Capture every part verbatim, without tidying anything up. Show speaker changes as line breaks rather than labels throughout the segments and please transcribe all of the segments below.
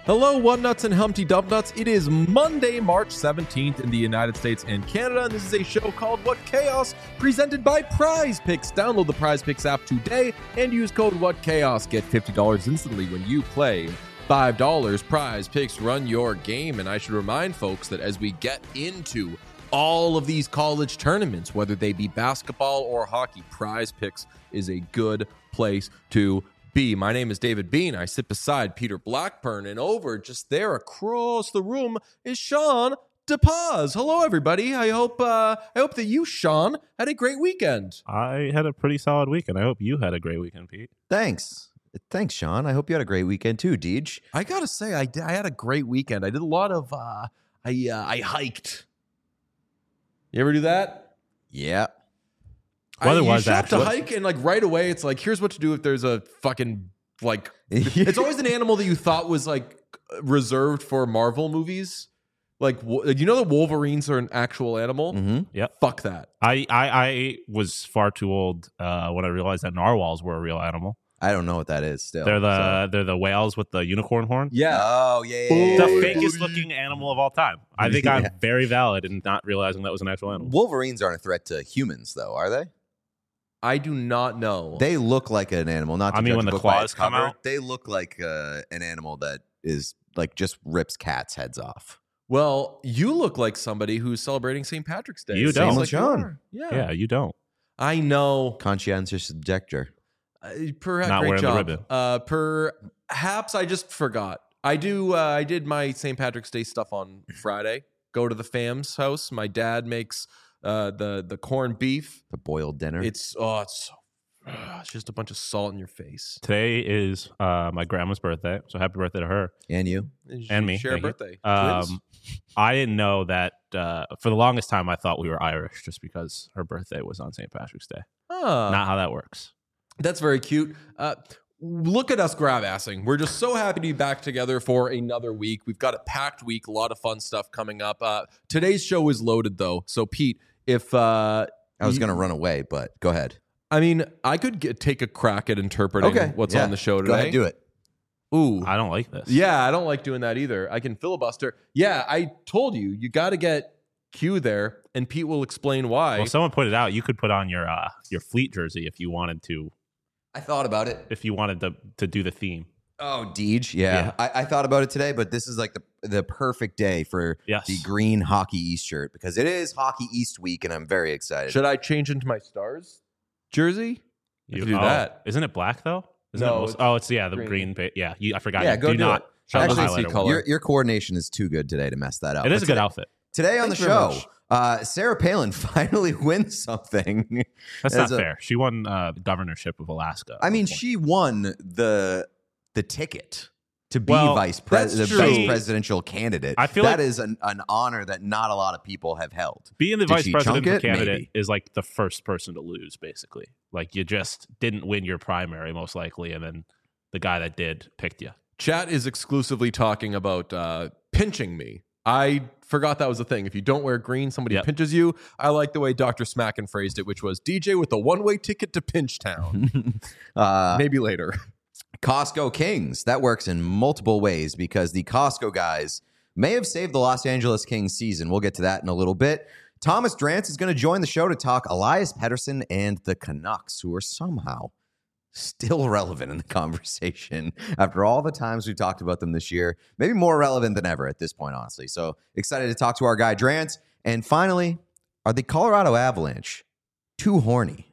Hello, One Nuts and Humpty Dump Nuts. It is Monday, March seventeenth in the United States and Canada, and this is a show called What Chaos, presented by Prize Picks. Download the Prize Picks app today and use code What Chaos. Get fifty dollars instantly when you play five dollars. Prize Picks, run your game. And I should remind folks that as we get into all of these college tournaments, whether they be basketball or hockey, Prize Picks is a good place to B. My name is David Bean. I sit beside Peter Blackburn, and over just there across the room is Sean DePaz. Hello, everybody. I hope uh, I hope that you, Sean, had a great weekend.
I had a pretty solid weekend. I hope you had a great weekend, Pete.
Thanks. Thanks, Sean. I hope you had a great weekend too, Deej.
I gotta say, I, did, I had a great weekend. I did a lot of uh, I uh, I hiked. You ever do that?
Yeah.
Weather
I,
was
you show up to
actually
hike, and like right away, it's like, here's what to do if there's a fucking like. It's always an animal that you thought was like reserved for Marvel movies. Like, you know, the Wolverines are an actual animal.
Mm-hmm.
Yep.
Fuck that.
I, I, I was far too old uh, when I realized that narwhals were a real animal.
I don't know what that is still.
They're the
so.
they're the whales with the unicorn horn.
Yeah.
Oh, yeah, yeah, yeah.
The
yeah,
fakest
yeah.
looking animal of all time. I think
Yeah.
I'm very valid in not realizing that was an actual animal.
Wolverines aren't a threat to humans, though, are they?
I do not know.
They look like an animal. Not to
I mean,
judge
when
a
the
book by
claws
its
come
cover,
out?
they look like uh, an animal that is like just rips cats' heads off.
Well, you look like somebody who's celebrating Saint Patrick's Day.
You
Seems
don't.
like you
Sean.
are. Yeah.
Yeah, you don't.
I know.
Conscientious objector.
Uh, perhaps
Not
great
wearing the
job.
ribbon.
Uh, perhaps I just forgot. I do. Uh, I did my Saint Patrick's Day stuff on Friday. Go to the fam's house. My dad makes uh, the the corned beef.
The boiled dinner.
It's oh, it's so. Uh, it's just a bunch of salt in your face.
Today is uh, my grandma's birthday, so happy birthday to her.
and you.
And me,
Share a
thank you.
birthday. Twins?
Um, I didn't know that uh, for the longest time. I thought we were Irish just because her birthday was on Saint Patrick's Day.
Huh.
Not how that works.
That's very cute. Uh, look at us grab-assing. We're just so happy to be back together for another week. We've got a packed week, a lot of fun stuff coming up. Uh, today's show is loaded, though. So, Pete, if uh,
I was
you-
going to run away, but go ahead.
I mean, I could get, take a crack at interpreting
Okay.
what's
Yeah.
on the show today.
Go ahead, do it.
Ooh.
I don't like this.
Yeah, I don't like doing that either. I can filibuster. Yeah, I told you, you got to get Q there, and Pete will explain why.
Well, someone pointed out you could put on your uh, your Fleet jersey if you wanted to.
I thought about it.
If you wanted to to do the theme.
Oh, Deej, yeah.
Yeah.
I, I thought about it today, but this is like the the perfect day for
Yes.
the green Hockey East shirt because it is Hockey East week, and I'm very excited.
Should I change into my Stars jersey? I
You
could do
oh,
that.
Isn't it black though? Isn't
No,
it most,
it's
oh, it's yeah, the
green.
green. pa- yeah, you, I forgot.
Yeah,
you
go
do
do
not
it.
show the
Actually,
highlighter
color.
one.
Your, your coordination is too good today to mess that up.
It is
But
a good
today,
outfit.
Today on the
Thanks very
show,
much.
uh, Sarah Palin finally wins something.
That's
As
not
a-
fair. She won uh, the governorship of Alaska.
I
at
mean,
one point.
she won the the ticket to be
Well,
vice pres- the
that's
vice
true.
presidential candidate.
I feel
that
like-
is an, an honor that not a lot of people have held.
being the
Did
vice
she
presidential
chunk it?
candidate
Maybe.
is like the first person to lose, basically. Like you just didn't win your primary, most likely, and then the guy that did picked you.
Chat is exclusively talking about uh, pinching me. I forgot that was a thing. If you don't wear green, somebody
Yep.
pinches you. I like the way Doctor Smacken phrased it, which was D J with a one-way ticket to Pinchtown.
Uh,
Maybe later.
Costco Kings. That works in multiple ways because the Costco guys may have saved the Los Angeles Kings season. We'll get to that in a little bit. Thomas Drance is going to join the show to talk Elias Pettersson and the Canucks, who are somehow still relevant in the conversation after all the times we talked about them this year. Maybe more relevant than ever at this point, honestly. So excited to talk to our guy Drance. And finally, are the Colorado Avalanche too horny?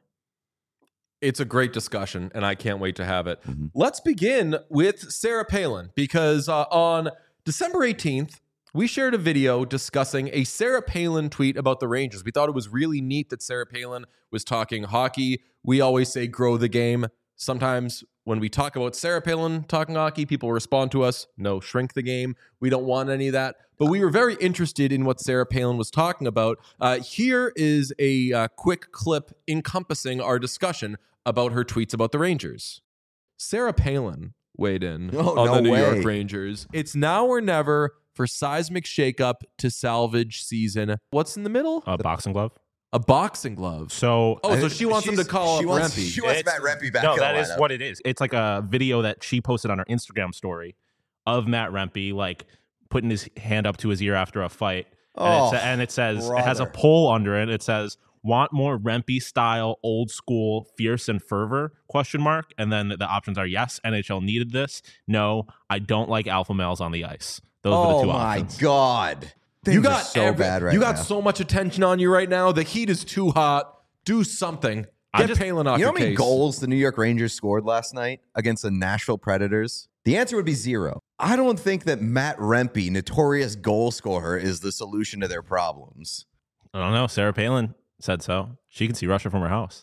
It's a great discussion, and I can't wait to have it.
Mhm.
Let's begin with Sarah Palin, because uh, on December eighteenth, we shared a video discussing a Sarah Palin tweet about the Rangers. We thought it was really neat that Sarah Palin was talking hockey. We always say grow the game. Sometimes when we talk about Sarah Palin talking hockey, people respond to us, no, shrink the game. We don't want any of that. But we were very interested in what Sarah Palin was talking about. Uh, here is a uh, quick clip encompassing our discussion about her tweets about the Rangers. Sarah Palin weighed in
Oh,
on
no
the New
way.
York Rangers. It's now or never for seismic shakeup to salvage season. What's in the middle?
A boxing glove.
A boxing glove.
So
Oh, so she wants him to
She's-
call
she
up
wants,
Rempe.
She wants
It's-
Matt Rempe back.
no,
in the
that is
lineup.
what it is. It's like a video that she posted on her Instagram story of Matt Rempe, like putting his hand up to his ear after a fight.
Oh,
and, it, and it says,
brother.
it has a poll under it. It says, want more Rempe style, old school, fierce and fervor, question mark. And then the options are yes, N H L needed this. No, I don't like alpha males on the ice. Those
oh
are the two
my
options.
God. Things
you got
are so
every-
bad right
You got
now.
so much attention on you right now. The heat is too hot. Do something.
I
Get
just-
Palin off
You know
your
how many
case.
goals the New York Rangers scored last night against the Nashville Predators? The answer would be zero. I don't think that Matt Rempe, notorious goal scorer, is the solution to their problems.
I don't know. Sarah Palin said so. She can see Russia from her house.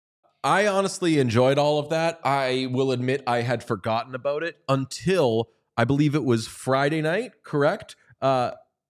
I honestly enjoyed all of that. I will admit I had forgotten about it until I believe it was Friday night, correct? Uh,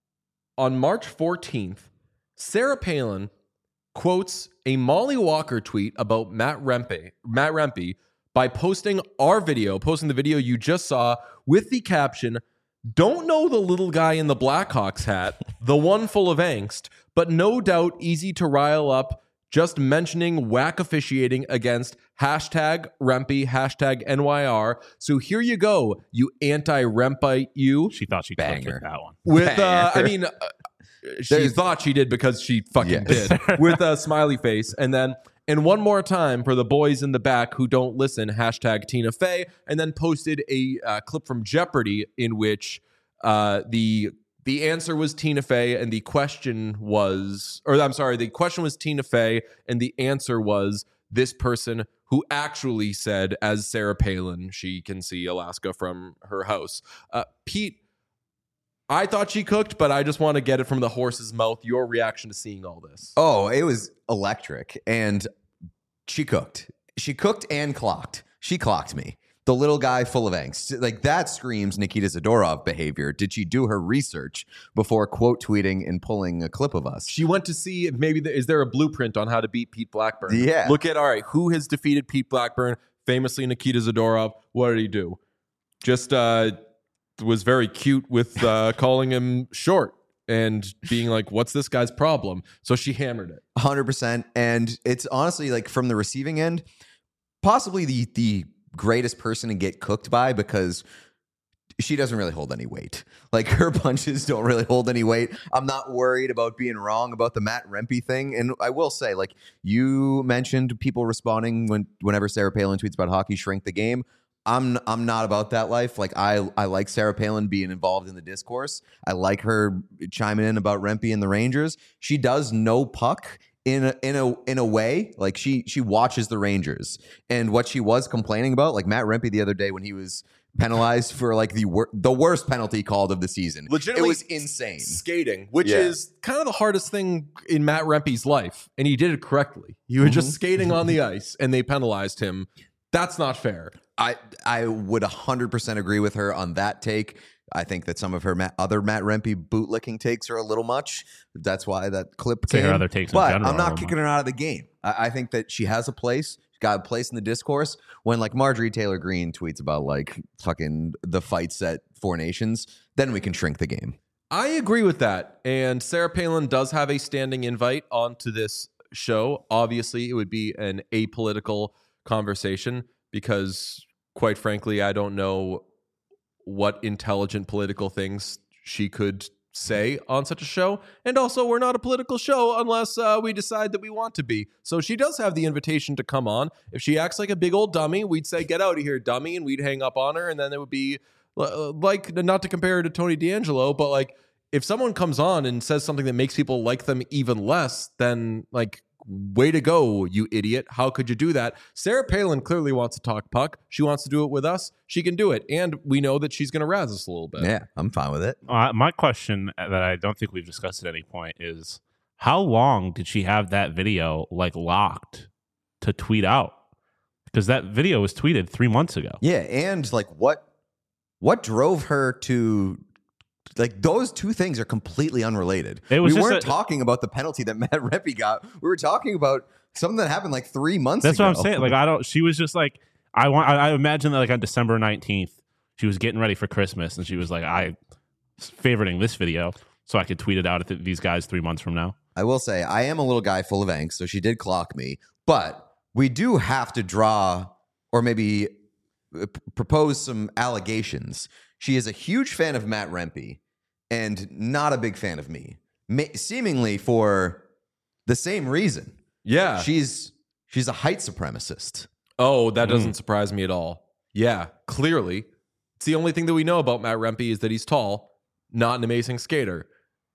on March fourteenth, Sarah Palin quotes a Molly Walker tweet about Matt Rempe, Matt Rempe by posting our video, posting the video you just saw with the caption, "Don't know the little guy in the Blackhawks hat, the one full of angst, but no doubt easy to rile up, just mentioning whack officiating against hashtag Rempe, hashtag N Y R. So here you go, you anti-Rempite you."
She thought she clicked
Banger.
with that one.
With, uh, I
Banger.
mean, uh, she
There's-
thought she did because she fucking
Yes.
did with a smiley face. And then, and one more time for the boys in the back who don't listen, hashtag Tina Fey, and then posted a uh, clip from Jeopardy in which uh, the the answer was Tina Fey and the question was, or I'm sorry, the question was Tina Fey and the answer was this person who actually said, as Sarah Palin, she can see Alaska from her house. Uh, Pete, I thought she cooked, but I just want to get it from the horse's mouth. Your reaction to seeing all this?
Oh, it was electric. And she cooked. She cooked and clocked. She clocked me. The little guy full of angst. Like, that screams Nikita Zadorov behavior. Did she do her research before quote tweeting and pulling a clip of us?
She went to see if maybe the, is there a blueprint on how to beat Pete Blackburn?
Yeah.
Look at, all right, who has defeated Pete Blackburn? Famously Nikita Zadorov. What did he do? Just uh, was very cute with uh, calling him short and being like, what's this guy's problem? So she hammered it.
one hundred percent. And it's honestly, like, from the receiving end, possibly the the greatest person to get cooked by, because she doesn't really hold any weight. Like, her punches don't really hold any weight. I'm not worried about being wrong about the Matt Rempe thing. And I will say, like, you mentioned people responding when whenever Sarah Palin tweets about hockey shrink the game. I'm I'm not about that life. Like, I I like Sarah Palin being involved in the discourse. I like her chiming in about Rempe and the Rangers. She does know puck in a in a in a way. Like, she she watches the Rangers. And what she was complaining about, like Matt Rempe the other day when he was penalized for like the wor- the worst penalty called of the season.
Legitimately
it was insane.
Skating, which
Yeah.
is kind of the hardest thing in Matt Rempe's life. And he did it correctly. He was just
Mhm.
skating on the ice and they penalized him. That's not fair.
I I would one hundred percent agree with her on that take. I think that some of her Matt, other Matt Rempe bootlicking takes are a little much. That's why that clip
Say
came.
her other takes in
but
general
I'm
are a
not
little
kicking her out of the game. I, I think that she has a place. She's got a place in the discourse. When like Marjorie Taylor Greene tweets about like fucking the fights at Four Nations, then we can shrink the game.
I agree with that. And Sarah Palin does have a standing invite onto this show. Obviously, it would be an apolitical conversation because, quite frankly, I don't know what intelligent political things she could say on such a show. And also, we're not a political show unless uh, we decide that we want to be. So she does have the invitation to come on. If she acts like a big old dummy, we'd say, get out of here, dummy, and we'd hang up on her. And then it would be uh, like, not to compare her to Tony D'Angelo, but like, if someone comes on and says something that makes people like them even less, then like, way to go, you idiot. How could you do that? Sarah Palin clearly wants to talk puck. She wants to do it with us. She can do it. And we know that she's going to razz us a little bit.
Yeah, I'm fine with it.
Uh, my question that I don't think we've discussed at any point is, how long did she have that video like locked to tweet out? Because that video was tweeted three months ago.
Yeah, and like what what drove her to like those two things are completely unrelated.
It was
we
just
weren't
a-
talking about the penalty that Matt Rempe got. We were talking about something that happened like three months
That's
ago.
what I'm saying. Like, I don't. She was just like, I want. I, I imagine that like on December nineteenth, she was getting ready for Christmas, and she was like, I favoriting this video so I could tweet it out at the, these guys three months from now.
I will say I am a little guy full of angst, so she did clock me. But we do have to draw or maybe uh, p- propose some allegations. she is a huge fan of Matt Rempe and not a big fan of me, Ma- seemingly for the same reason.
Yeah.
She's she's a height supremacist.
Oh, that doesn't mm. surprise me at all. Yeah, clearly. It's the only thing that we know about Matt Rempe is that he's tall, not an amazing skater.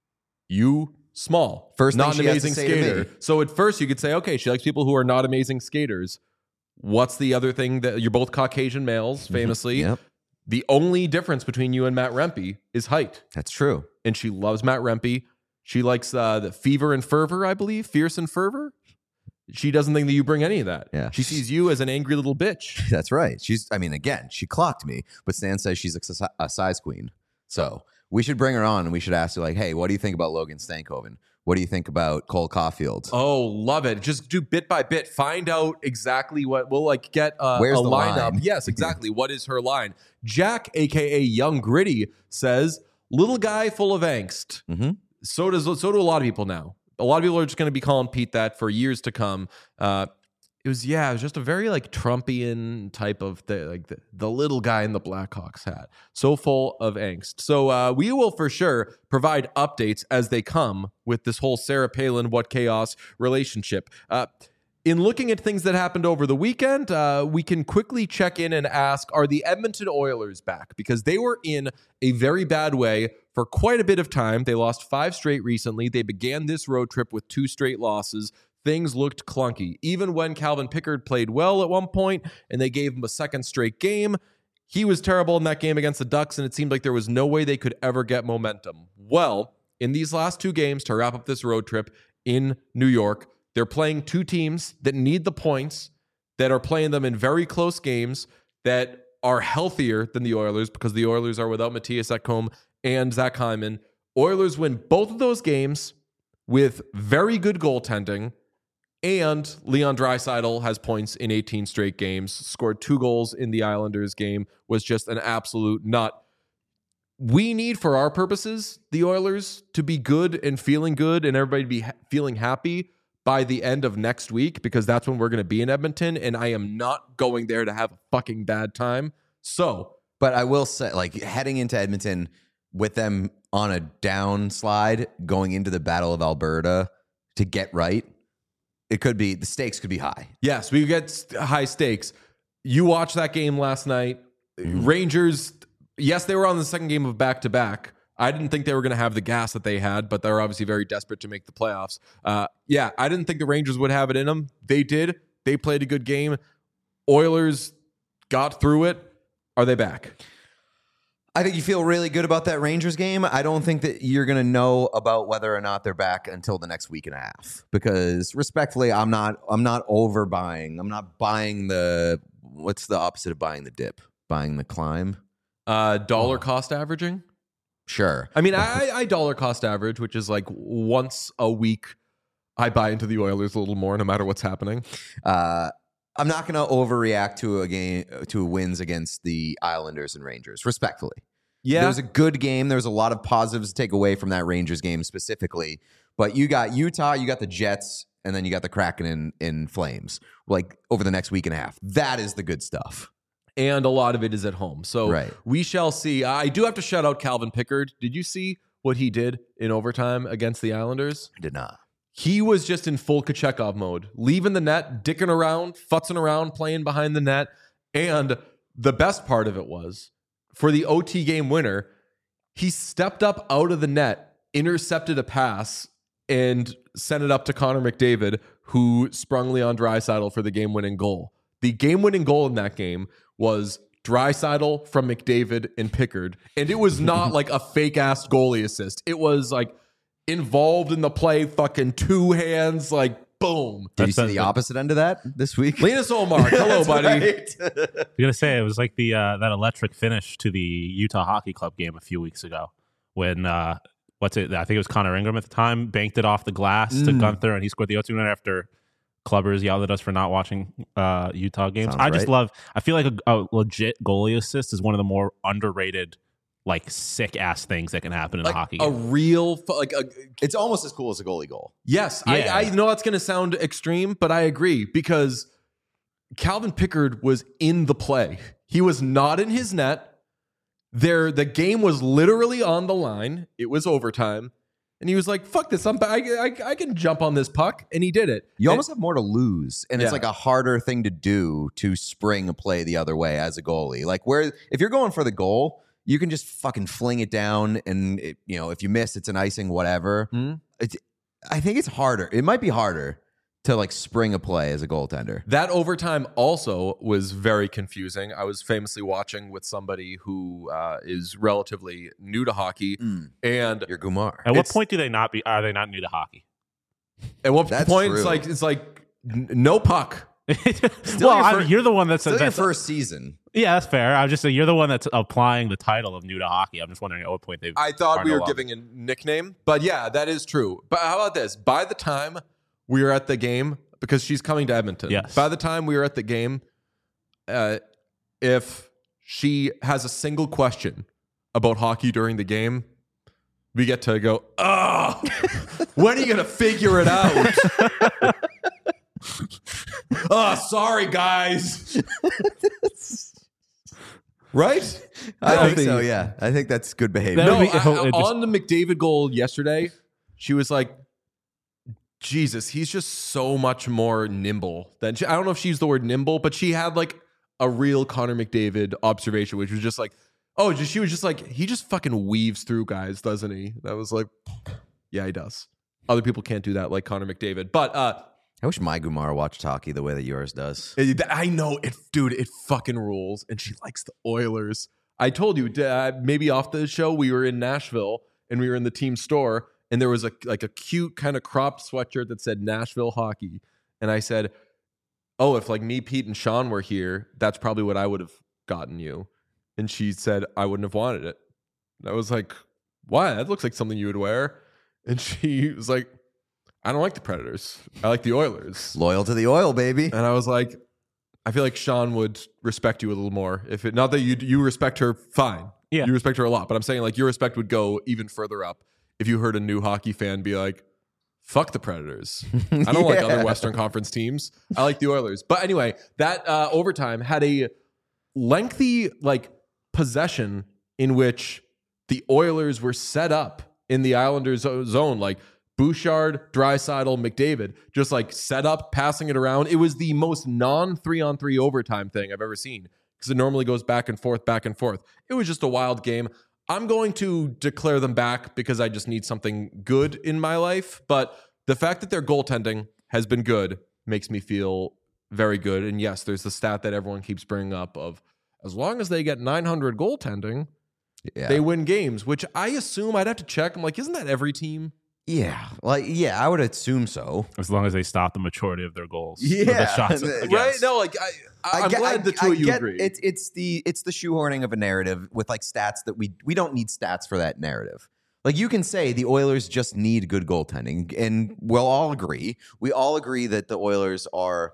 You, small,
first
not
thing
an amazing skater. So at first you could say, okay, she likes people who are not amazing skaters. What's the other thing that you're both Caucasian males, famously?
Yep.
The only difference between you and Matt Rempe is height.
That's true.
And she loves Matt Rempe. She likes uh, the fever and fervor, I believe, fierce and fervor. She doesn't think that you bring any of that.
Yeah.
She sees you as an angry little bitch.
That's right. She's, I mean, again, she clocked me, but Stan says she's a, a size queen. So we should bring her on and we should ask her, like, hey, what do you think about Logan Stankoven? What do you think about Cole Caulfield?
Oh, love it. Just do bit by bit. Find out exactly what we'll like get uh,
Where's
a
the
lineup.
line?
Yes, exactly. What is her line? Jack, a k a. Young Gritty, says, little guy full of angst.
Mm-hmm.
So does so do a lot of people now. A lot of people are just going to be calling Pete that for years to come. Uh, it was, yeah, it was just a very like Trumpian type of thing, like the, the little guy in the Blackhawks hat. So full of angst. So uh, we will for sure provide updates as they come with this whole Sarah Palin, What Chaos relationship. Uh, in looking at things that happened over the weekend, uh, we can quickly check in and ask, are the Edmonton Oilers back? Because they were in a very bad way for quite a bit of time. They lost five straight recently. They began this road trip with two straight losses. Things looked clunky. Even when Calvin Pickard played well at one point and they gave him a second straight game, he was terrible in that game against the Ducks, and it seemed like there was no way they could ever get momentum. Well, in these last two games to wrap up this road trip in New York, they're playing two teams that need the points, that are playing them in very close games, that are healthier than the Oilers because the Oilers are without Matthias Ekholm and Zach Hyman. Oilers win both of those games with very good goaltending, and Leon Draisaitl has points in eighteen straight games, scored two goals in the Islanders game, was just an absolute nut. We need, for our purposes, the Oilers to be good and feeling good and everybody to be ha- feeling happy by the end of next week, because that's when we're going to be in Edmonton, and I am not going there to have a fucking bad time. So,
but I will say, like, heading into Edmonton with them on a downslide, going into the Battle of Alberta to get right, it could be, the stakes could be high.
Yes, we get high stakes. You watched that game last night. Mm-hmm. Rangers, yes, they were on the second game of back-to-back. I didn't think they were going to have the gas that they had, but they're obviously very desperate to make the playoffs. Uh, yeah, I didn't think the Rangers would have it in them. They did. They played a good game. Oilers got through it. Are they back?
I think you feel really good about that Rangers game. I don't think that you're going to know about whether or not they're back until the next week and a half, because respectfully, I'm not I'm not overbuying. I'm not buying the, what's the opposite of buying the dip? Buying the climb?
Uh, dollar oh. cost averaging?
Sure.
I mean, I, I dollar cost average, which is like once a week I buy into the Oilers a little more no matter what's happening.
Uh, I'm not going to overreact to a game, to wins against the Islanders and Rangers, respectfully.
Yeah.
There was a good game. There was a lot of positives to take away from that Rangers game specifically. But you got Utah, you got the Jets, and then you got the Kraken in, in Flames, like over the next week and a half. That is the good stuff.
And a lot of it is at home. So
right.
we shall see. I do have to shout out Calvin Pickard. Did you see what he did in overtime against the Islanders?
I did not.
He was just in full Kochekov mode, leaving the net, dicking around, futzing around, playing behind the net. And the best part of it was, for the O T game winner, he stepped up out of the net, intercepted a pass, and sent it up to Connor McDavid, who sprung Leon Draisaitl for the game-winning goal. The game-winning goal in that game was Draisaitl from McDavid and Pickard. And it was not like a fake-ass goalie assist. It was like involved in the play, fucking two hands, like boom.
Did That's you see the opposite end of that this week?
Linus Ullmark, hello, buddy.
Right. I'm gonna say it was like the uh, that electric finish to the Utah Hockey Club game a few weeks ago when uh, what's it? I think it was Connor Ingram at the time banked it off the glass mm. to Gunther, and he scored the O two winner after Clubbers yelled at us for not watching uh, Utah games.
Sounds
I just
right.
love. I feel like a, a legit goalie assist is one of the more underrated, like sick ass things that can happen in
like
a hockey
a
game.
real like a,
it's almost as cool as a goalie goal.
Yes,
Yeah.
I, I know that's going to sound extreme, but I agree, because Calvin Pickard was in the play. He was not in his net. there the game was literally on the line. It was overtime. And he was like, fuck this. I'm, I, I, I can jump on this puck. And he did it.
You
and,
almost have more to lose. And
Yeah.
it's like a harder thing to do to spring a play the other way as a goalie. Like where if you're going for the goal, you can just fucking fling it down. And, it, you know, if you miss, it's an icing, whatever.
Hmm?
It's, I think it's harder. It might be harder to like spring a play as a goaltender.
That overtime also was very confusing. I was famously watching with somebody who uh, is relatively new to hockey.
Mm.
And
You're Gumar.
At what
It's-
point do they not be? Are they not new to hockey?
at what
That's
point
true.
it's like, it's like n- no puck.
Still
well,
your
I
fir-
mean, you're the one that's,
Still your
that's
first season.
yeah, that's fair. I'm just saying you're the one that's applying the title of new to hockey. I'm just wondering at what point they.
I thought
are
we
no
were
longer.
giving a nickname, but yeah, that is true. But how about this? By the time we were at the game, because she's coming to Edmonton.
Yes.
By the time we were at the game, uh, if she has a single question about hockey during the game, we get to go, oh, when are you going to figure it out? Oh, sorry, guys. Right?
I
don't
think so, yeah. I think that's good behavior.
That
No,
would be-
I- I-
it just-
on the McDavid goal yesterday, she was like, Jesus, he's just so much more nimble than she, I don't know if she used the word nimble, but she had like a real Connor McDavid observation, which was just like, oh, just, she was just like, he just fucking weaves through guys, doesn't he? That was like, yeah, he does. Other people can't do that like Connor McDavid. But uh,
I wish my Gumar watched hockey the way that yours does.
I know it, dude, it fucking rules. And she likes the Oilers. I told you, uh, maybe off the show, we were in Nashville and we were in the team store. And there was a like a cute kind of cropped sweatshirt that said Nashville Hockey. And I said, oh, if like me, Pete, and Sean were here, that's probably what I would have gotten you. And she said, I wouldn't have wanted it. And I was like, why? That looks like something you would wear. And she was like, I don't like the Predators. I like the Oilers.
Loyal to the oil, baby.
And I was like, I feel like Sean would respect you a little more. If it not that you you respect her, fine.
Yeah.
You respect her a lot. But I'm saying like your respect would go even further up if you heard a new hockey fan be like, fuck the Predators. I don't like
Yeah.
other Western Conference teams. I like the Oilers. But anyway, that uh, overtime had a lengthy like possession in which the Oilers were set up in the Islanders zone, like Bouchard, Draisaitl, McDavid, just like set up, passing it around. It was the most non three on three overtime thing I've ever seen because it normally goes back and forth, back and forth. It was just a wild game. I'm going to declare them back because I just need something good in my life. But the fact that their goaltending has been good makes me feel very good. And yes, there's the stat that everyone keeps bringing up of as long as they get nine hundred goaltending,
Yeah.
they win games, which I assume I'd have to check. I'm like, isn't that every team?
yeah. Like, yeah, I would assume so.
As long as they stop the majority of their goals.
Yeah.
Or the shots.
Right?
against.
Right? No, like I, I, I'm
get-
glad the two
I
of you
get
agree.
It's it's the it's the shoehorning of a narrative with like stats that we we don't need stats for that narrative. Like you can say the Oilers just need good goaltending, and we'll all agree. We all agree that the Oilers are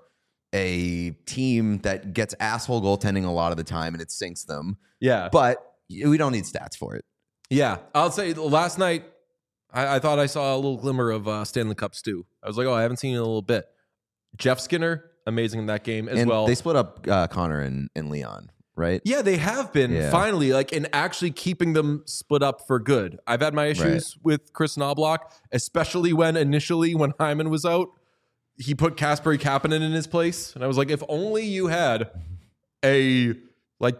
a team that gets asshole goaltending a lot of the time, and it sinks them.
yeah,
But we don't need stats for it.
yeah. I'll say last night I, I thought I saw a little glimmer of uh, Stanley Cup stew. I was like, oh, I haven't seen it in a little bit. Jeff Skinner, amazing in that game as
and
well.
they split up uh, Connor and, and Leon, right?
Yeah, they have been
Yeah.
finally like in actually keeping them split up for good. I've had my issues with Chris Knobloch, especially when initially when Hyman was out, he put Kasperi Kapanen in his place, and I was like, if only you had a like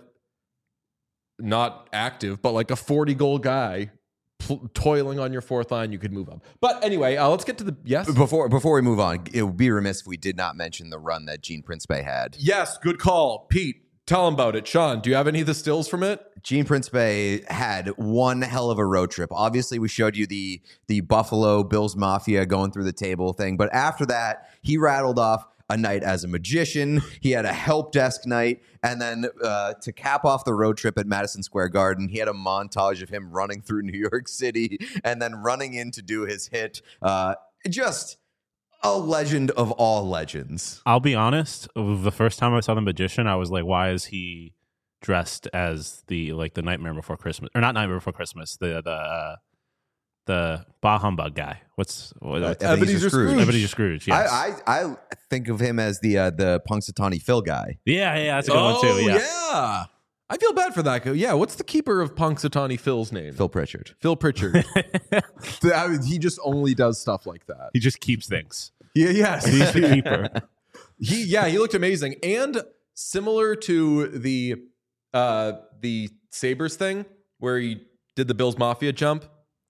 not active, but like a forty goal guy pl- toiling on your fourth line, you could move up. But anyway, uh, let's get to the yes.
Before before we move on, it would be remiss if we did not mention the run that Gene Principe had.
Yes, good call, Pete. Tell him about it, Sean. Do you have any of the stills from it?
Gene Principe had one hell of a road trip. Obviously, we showed you the the Buffalo Bills Mafia going through the table thing, but after that, he rattled off a night as a magician. He had a help desk night, and then uh, to cap off the road trip at Madison Square Garden, he had a montage of him running through New York City and then running in to do his hit. Uh, just a legend of all legends.
I'll be honest. The first time I saw the magician, I was like, "Why is he dressed as the like the Nightmare Before Christmas or not Nightmare Before Christmas? The the uh, the Bah Humbug guy. What's what,
Uh,
Ebenezer
Ebenezer Scrooge.
Ebenezer Scrooge? Yes.
I, I I think of him as the uh, the Punxsutawney Phil guy.
yeah, yeah, that's a good one too. Yeah.
yeah. I feel bad for that guy. Yeah, what's the keeper of Punxsutawney Phil's name?
Phil Pritchard.
Phil Pritchard. I mean, he just only does stuff like that.
He just keeps things.
Yeah, yes.
He's the keeper.
He yeah, he looked amazing. And similar to the uh the Sabres thing where he did the Bills Mafia jump.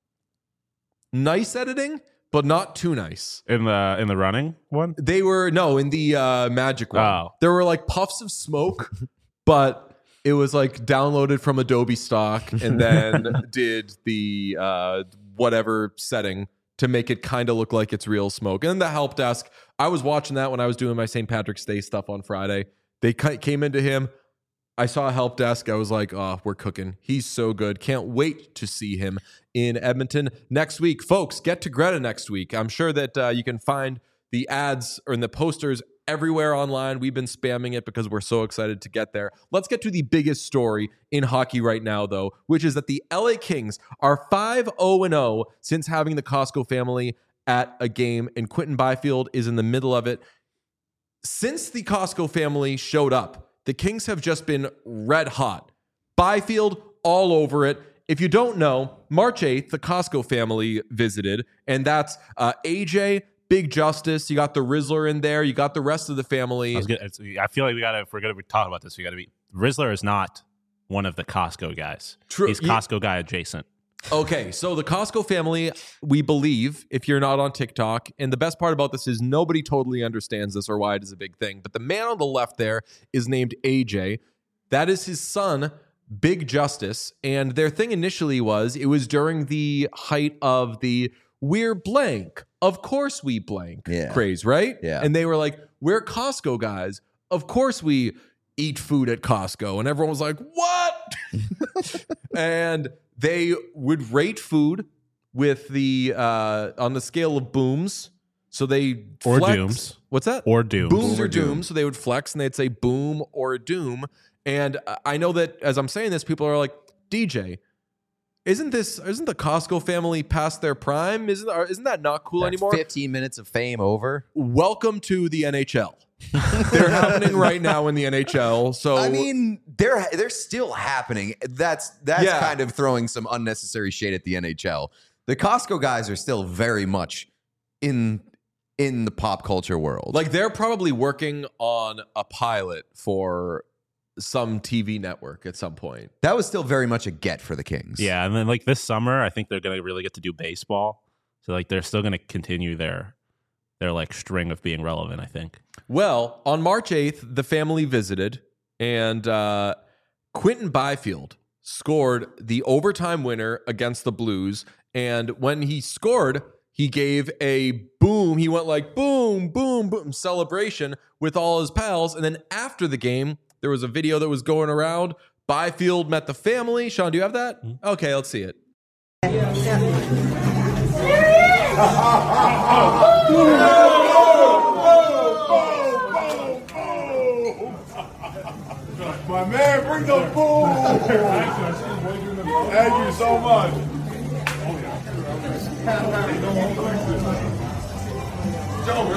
Nice editing, but not too nice.
In the in the running one?
They were no, in the uh Magic one.
Oh.
There were like puffs of smoke, but it was like downloaded from Adobe stock and then did the uh, whatever setting to make it kind of look like it's real smoke. And then the help desk, I was watching that when I was doing my Saint Patrick's Day stuff on Friday. They came into him. I saw a help desk. I was like, oh, we're cooking. He's so good. Can't wait to see him in Edmonton next week. Folks, get to Greta next week. I'm sure that uh, you can find the ads or in the posters everywhere online. We've been spamming it because we're so excited to get there. Let's get to the biggest story in hockey right now, though, which is that the L A Kings are five oh and oh since having the Costco family at a game, and Quinton Byfield is in the middle of it. Since the Costco family showed up, the Kings have just been red hot. Byfield all over it. If you don't know, March eighth, the Costco family visited, and that's uh, A J, Big Justice. You got the Rizzler in there. You got the rest of the family.
I, was gonna, it's, I feel like we got to, if we're going to talk about this, we got to be, Rizzler is not one of the Costco guys.
True.
He's Costco guy adjacent.
Okay, so the Costco family, we believe, if you're not on TikTok, and the best part about this is nobody totally understands this or why it is a big thing, but the man on the left there is named A J. That is his son, Big Justice, and their thing initially was, it was during the height of the we're blank, of course we blank
yeah.
craze, right?
Yeah.
And they were like, we're Costco guys, of course we eat food at Costco. And everyone was like, what? And they would rate food with the uh, on the scale of booms. So they
or
flex.
dooms.
What's that?
Or dooms.
Booms
Boom
or
or doom.
dooms. So they would flex and they'd say boom or doom. And I know that as I'm saying this, people are like, D J, isn't this isn't the Costco family past their prime? Isn't isn't that not cool
That's
anymore?
fifteen minutes of fame over.
Welcome to the N H L. They're happening right now in the N H L. So
I mean, they're they're still happening. That's that's
Yeah.
kind of throwing some unnecessary shade at the N H L. The Costco guys are still very much in in the pop culture world.
like they're probably working on a pilot for some T V network at some point.
that was still very much a get for the Kings.
Yeah, and then like this summer, I think they're going to really get to do baseball. So like they're still going to continue their their like string of being relevant, I think.
Well, on March eighth, the family visited, and uh, Quinton Byfield scored the overtime winner against the Blues. And when he scored, he gave a boom. He went like boom, boom, boom celebration with all his pals. And then after the game, there was a video that was going around. Byfield met the family. Sean, do you have that? Okay, let's see it.
My man, bring the food. Thank you so much. Joe,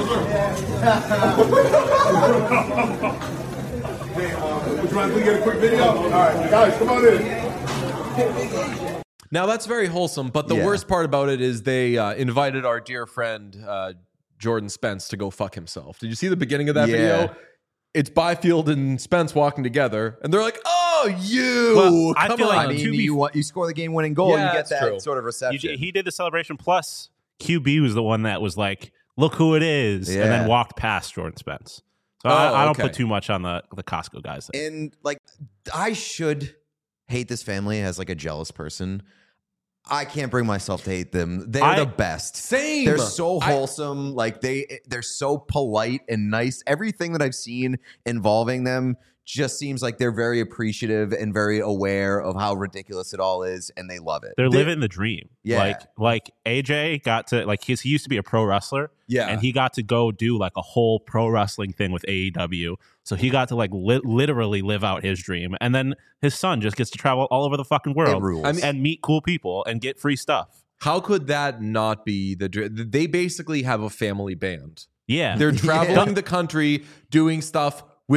Hey, uh, would you mind if we get a quick video? All right, guys, come on in.
Now, that's very wholesome, but the
Yeah.
worst part about it is they uh, invited our dear friend uh, Jordan Spence to go fuck himself. Did you see the beginning of that
Yeah.
video? It's Byfield and Spence walking together, and they're like, "Oh, you!
Well, I
Come
feel
on!"
like
I mean,
to be-
you want you score the game-winning goal,
Yeah,
you get
that's
that
true.
sort of
You
reception.
j- he did the celebration. Plus, Q B was the one that was like, "Look who it is," and
Yeah.
then walked past Jordan Spence. So
Oh,
I, I don't
okay.
put too much on the the Costco guys. There.
And like, I should hate this family as like a jealous person. I can't bring myself to hate them. They're
I-
the best.
Same.
They're so
I-
wholesome. like they, they're so polite and nice. Everything that I've seen involving them just seems like they're very appreciative and very aware of how ridiculous it all is, and they love it.
They're
They-
living the dream.
Yeah.
Like like A J got to like he's, he used to be a pro wrestler.
Yeah.
And he got to go do like a whole pro wrestling thing with A E W. So he got to like li- literally live out his dream. And then his son just gets to travel all over the fucking
It
world
rules.
I mean-
and meet cool people and get free stuff.
How could that not be the? dr- They basically have a family band.
Yeah.
They're
Yeah.
traveling the country, doing stuff with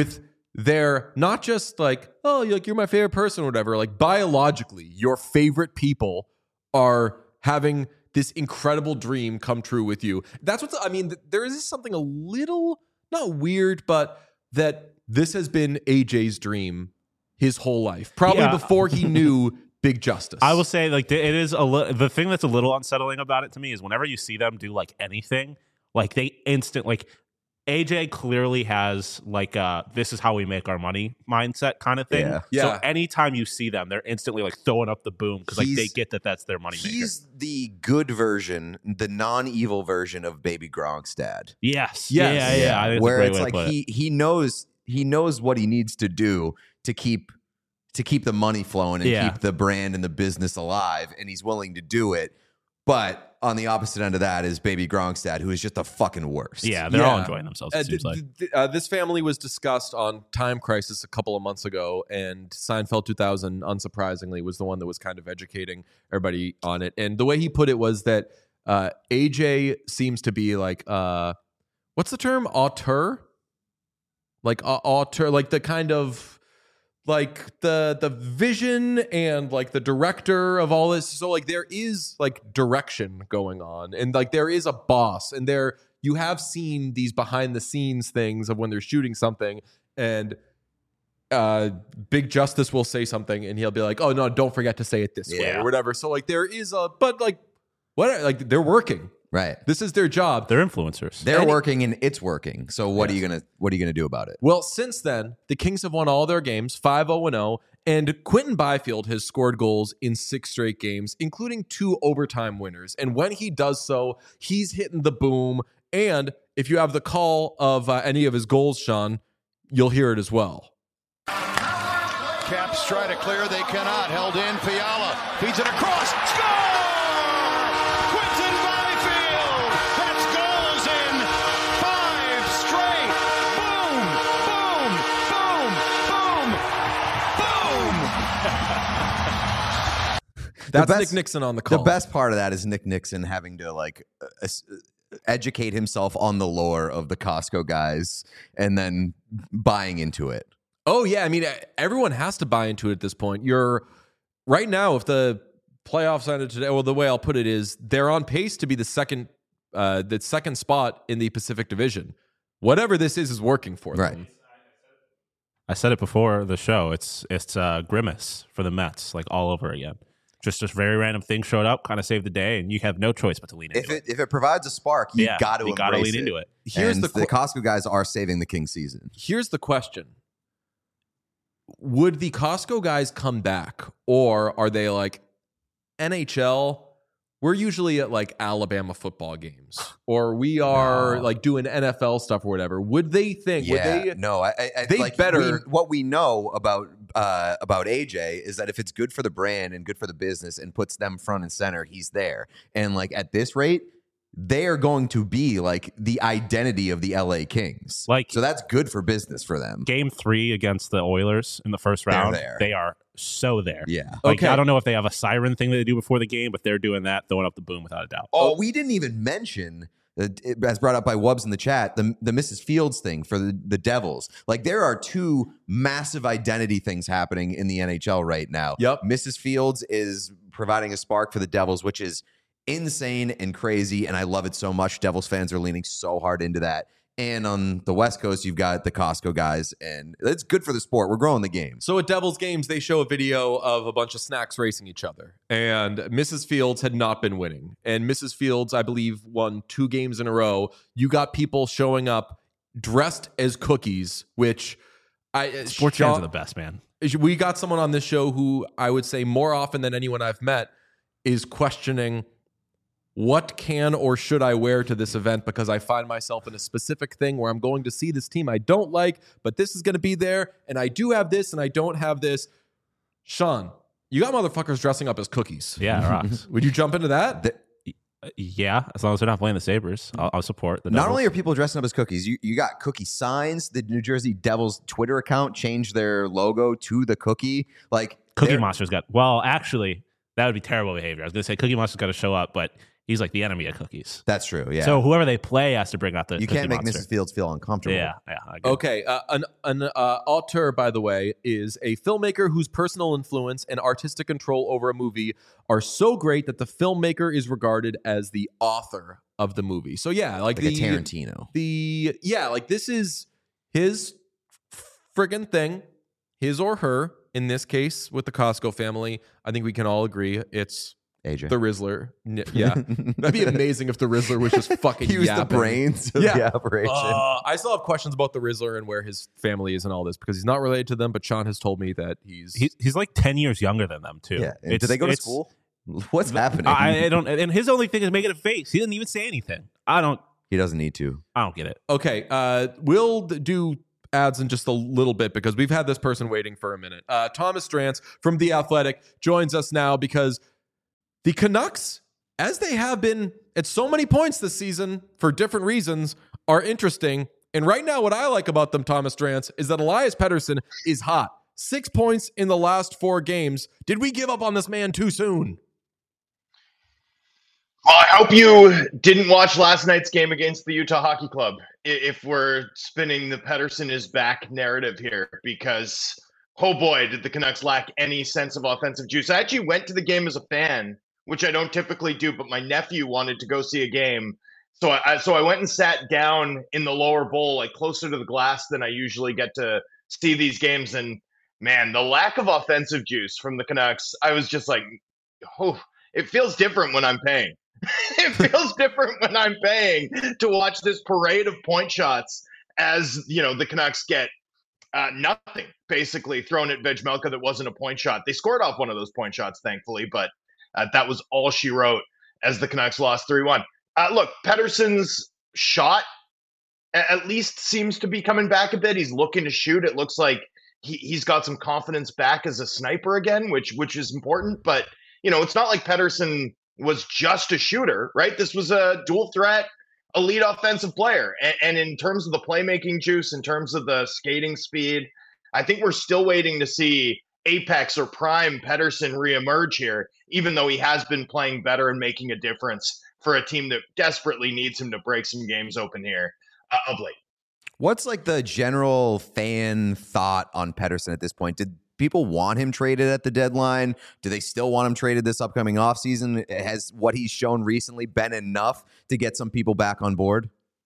they're not just like, oh, you're like you're my favorite person or whatever. Like biologically, your favorite people are having this incredible dream come true with you. That's what's, I mean, th- there is something a little, not weird, but that this has been A J's dream his whole life, probably
Yeah.
before he knew Big Justice.
I will say, like, it is a li- the thing that's a little unsettling about it to me is whenever you see them do like anything, like they instant like A J clearly has like uh this is how we make our money mindset kind of thing.
Yeah.
Yeah.
So anytime you see them, they're instantly like throwing up the boom because like they
He's-
get that that's their money maker.
He's the good version, the non-evil version of Baby Gronk's dad.
Yes.
Yes.
Yeah. Yeah. yeah. I think it's a
Where
great
it's
way to
like
put it.
he he knows he knows what he needs to do to keep to keep the money flowing and
Yeah.
keep the brand and the business alive, and he's willing to do it. But on the opposite end of that is Baby Gronk's dad, who is just the fucking worst.
Yeah, they're all
Yeah.
enjoying themselves.
Uh,
It seems
th-
like.
th- uh, this family was discussed on Time Crisis a couple of months ago, and Seinfeld two thousand, unsurprisingly, was the one that was kind of educating everybody on it. And the way he put it was that uh, A J seems to be like, uh, what's the term? Auteur? Like uh, auteur, like the kind of like the the vision and like the director of all this. So like there is like direction going on, and like there is a boss, and there you have seen these behind the scenes things of when they're shooting something, and uh Big Justice will say something and he'll be like, oh no, don't forget to say it this way
Yeah.
or whatever. So like there is a, but like what, like they're working.
Right.
This is their job.
They're influencers.
They're
Any-
working and it's working. So what are you gonna what are you gonna do about it?
Well, since then, the Kings have won all their games, five oh and oh, and Quentin Byfield has scored goals in six straight games, including two overtime winners. And when he does so, he's hitting the boom. And if you have the call of uh, any of his goals, Sean, you'll hear it as well.
Caps try to clear, they cannot. Held in, Fiala feeds it across, score! Quentin Byfield! That's goals in five straight! Boom! Boom! Boom! Boom!
That's
best-
Nick Nixon on the call.
The best part of that is Nick Nixon having to like uh, es- educate himself on the lore of the Costco guys and then buying into it.
Oh yeah, I mean everyone has to buy into it at this point. You're right now, if the playoffs ended today, well, the way I'll put it is they're on pace to be the second, uh, the second spot in the Pacific Division. Whatever this is is working for
Right.
them.
I said it before the show. It's it's uh, Grimace for the Mets, like all over again. Just just very random thing showed up, kind of saved the day, and you have no choice but to lean into
If it if it provides a spark, you
yeah,
got to
you gotta
embrace
lean
it.
into it.
Here's
and
the,
the
qu-
Costco guys are saving the King season.
here's the question: would the Costco guys come back, or are they like N H L? We're usually at like Alabama football games, or we are
No.
like doing N F L stuff or whatever. Would they think?
Yeah,
Would they?
no, I, I, I
they
like
better-
we- what we know about uh, about A J is that if it's good for the brand and good for the business and puts them front and center, he's there. And like at this rate, they are going to be like the identity of the L A Kings.
Like-
so that's good for business for them.
Game three against the Oilers in the first
They're
round,
there.
they are so there.
Yeah.
Like
Okay.
I don't know if they have a siren thing that they do before the game, but they're doing that, throwing up the boom without a doubt.
Oh, we didn't even mention, uh, it- as brought up by Wubbs in the chat, the the Missus Fields thing for the, the Devils. Like there are two massive identity things happening in the N H L right now.
Yep.
Missus Fields is providing a spark for the Devils, which is insane and crazy, and I love it so much. Devils fans are leaning so hard into that. And on the West Coast, you've got the Costco guys, and it's good for the sport. We're growing the game.
So at Devils games, they show a video of a bunch of snacks racing each other. And Missus Fields had not been winning. And Missus Fields, I believe, won two games in a row. You got people showing up dressed as cookies, which I
Sports
Sean-
fans are the best, man.
we got someone on this show who I would say more often than anyone I've met is questioning what can or should I wear to this event, because I find myself in a specific thing where I'm going to see this team I don't like, but this is going to be there, and I do have this and I don't have this. Sean, you got motherfuckers dressing up as cookies.
Yeah, it rocks.
Would you jump into that?
The-
Uh, yeah, as long as they're not playing the Sabres, I'll, I'll support the
Not
Devils.
only are people dressing up as cookies, you, you got cookie signs. The New Jersey Devils Twitter account changed their logo to the cookie. Like
Cookie
they're-
Monster's got. Well, actually, that would be terrible behavior. I was gonna say Cookie Monster's got to show up, but he's like the enemy of cookies.
That's true. Yeah.
So whoever they play has to bring out the
you
Cookie
can't make
Monster.
Missus Fields feel uncomfortable.
Yeah, yeah. I agree.
Okay, uh, an, an uh, auteur, by the way, is a filmmaker whose personal influence and artistic control over a movie are so great that the filmmaker is regarded as the author of the movie. So yeah, like,
Like
the
a Tarantino.
The yeah, like this is his friggin' thing, his or her. In this case, with the Costco family, I think we can all agree it's
A J.
the Rizzler. N- Yeah, that'd be amazing if the Rizzler was just fucking.
He was
yapping.
the brains of
Yeah.
the operation.
Uh, I still have questions about the Rizzler and where his family is and all this because he's not related to them. But Sean has told me that he's.
He's he's like ten years younger than them too.
yeah. And
It's-
do they go to
it's-
school? What's happening?
I, I don't. And his only thing is making a face. He didn't even say anything. I don't.
he doesn't need to.
I don't get it.
Okay, uh, we'll d- do ads in just a little bit because we've had this person waiting for a minute. Uh, Thomas Drance from The Athletic joins us now because the Canucks, as they have been at so many points this season for different reasons, are interesting. And right now, what I like about them, Thomas Drance, is that Elias Pettersson is hot. Six points in the last four games. Did we give up on this man too soon?
Well, I hope you didn't watch last night's game against the Utah Hockey Club i- if we're spinning the Pettersson is back narrative here, because, oh boy, did the Canucks lack any sense of offensive juice. I actually went to the game as a fan, which I don't typically do, but my nephew wanted to go see a game. So I, so I went and sat down in the lower bowl, like closer to the glass than I usually get to see these games. And man, the lack of offensive juice from the Canucks, I was just like, oh, it feels different when I'm paying. It feels different when I'm paying to watch this parade of point shots as, you know, the Canucks get uh, nothing basically thrown at Vejmelka that wasn't a point shot. They scored off one of those point shots, thankfully, but uh, that was all she wrote as the Canucks lost three one. Uh, look, Pettersson's shot a- at least seems to be coming back a bit. He's looking to shoot. It looks like he, he's got some confidence back as a sniper again, which which is important. But, you know, it's not like Pettersson was just a shooter, right? This was a dual threat, elite offensive player. And, and in terms of the playmaking juice, in terms of the skating speed, I think we're still waiting to see apex or prime Pettersson reemerge here, even though he has been playing better and making a difference for a team that desperately needs him to break some games open here uh, of late.
What's like the general fan thought on Pettersson at this point? Did people want him traded at the deadline? Do they still want him traded this upcoming offseason? Has what he's shown recently been enough to get some people back on board?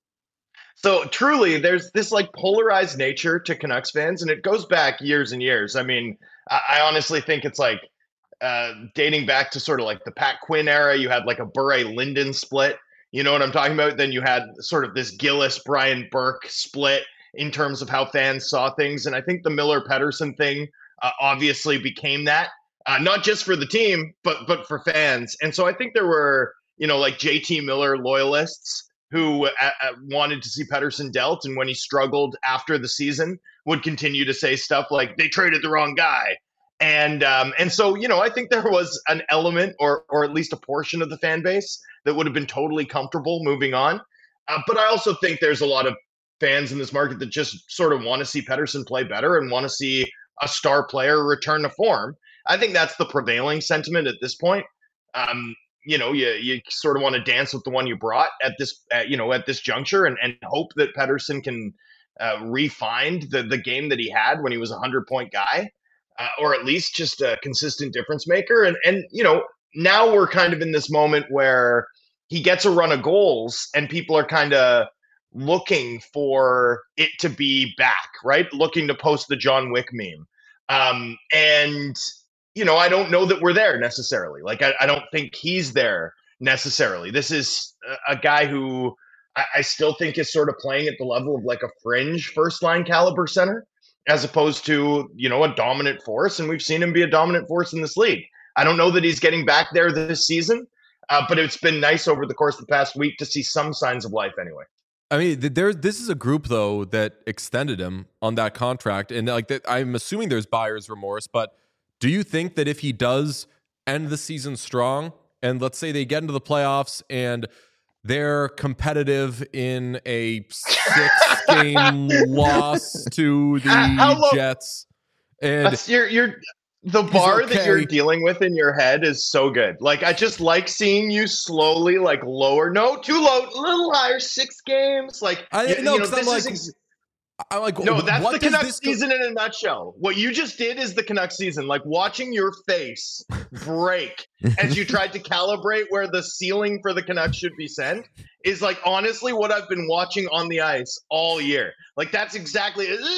So truly, there's this like polarized nature to Canucks fans, and it goes back years and years. I mean, I, I honestly think it's like uh, dating back to sort of like the Pat Quinn era. You had like a Bure-Linden split. You know what I'm talking about? Then you had sort of this Gillis-Brian Burke split in terms of how fans saw things. And I think the Miller-Pettersson thing uh, obviously became that, uh, not just for the team, but but for fans. And so I think there were, you know, like J T Miller loyalists who uh, uh, wanted to see Pettersson dealt. And when he struggled after the season, would continue to say stuff like, they traded the wrong guy. And um, and so, you know, I think there was an element or or at least a portion of the fan base that would have been totally comfortable moving on. Uh, but I also think there's a lot of fans in this market that just sort of want to see Pettersson play better and want to see a star player return to form. I think that's the prevailing sentiment at this point. Um, you know, you you sort of want to dance with the one you brought at this, at, you know, at this juncture and, and hope that Pettersson can uh, re-find the, the game that he had when he was a hundred-point guy. Uh, or at least just a consistent difference maker. And, and, you know, now we're kind of in this moment where he gets a run of goals and people are kind of looking for it to be back, right? Looking to post the John Wick meme. Um, and, you know, I don't know that we're there necessarily. Like, I, I don't think he's there necessarily. This is a, a guy who I, I still think is sort of playing at the level of like a fringe first line caliber center, as opposed to, you know, a dominant force. And we've seen him be a dominant force in this league. I don't know that he's getting back there this season, uh, but it's been nice over the course of the past week to see some signs of life anyway.
I mean, there. This is a group though that extended him on that contract, and like that, I'm assuming there's buyer's remorse. But do you think that if he does end the season strong, and let's say they get into the playoffs and they're competitive in a six-game loss to the
How low-
Jets, and
That's, you're you're The bar
okay.
that you're dealing with in your head is so good. Like, I just like seeing you slowly, like, lower. No, too low, a little higher. Six games. Like,
I
you,
know,
you know,
'cause
this
I'm
is
like-
ex-
I'm like,
no, that's
what
the
does
Canucks
this go-
season in a nutshell. What you just did is the Canucks season. Like, watching your face break as you tried to calibrate where the ceiling for the Canucks should be sent is, like, honestly what I've been watching on the ice all year. Like, that's exactly, uh,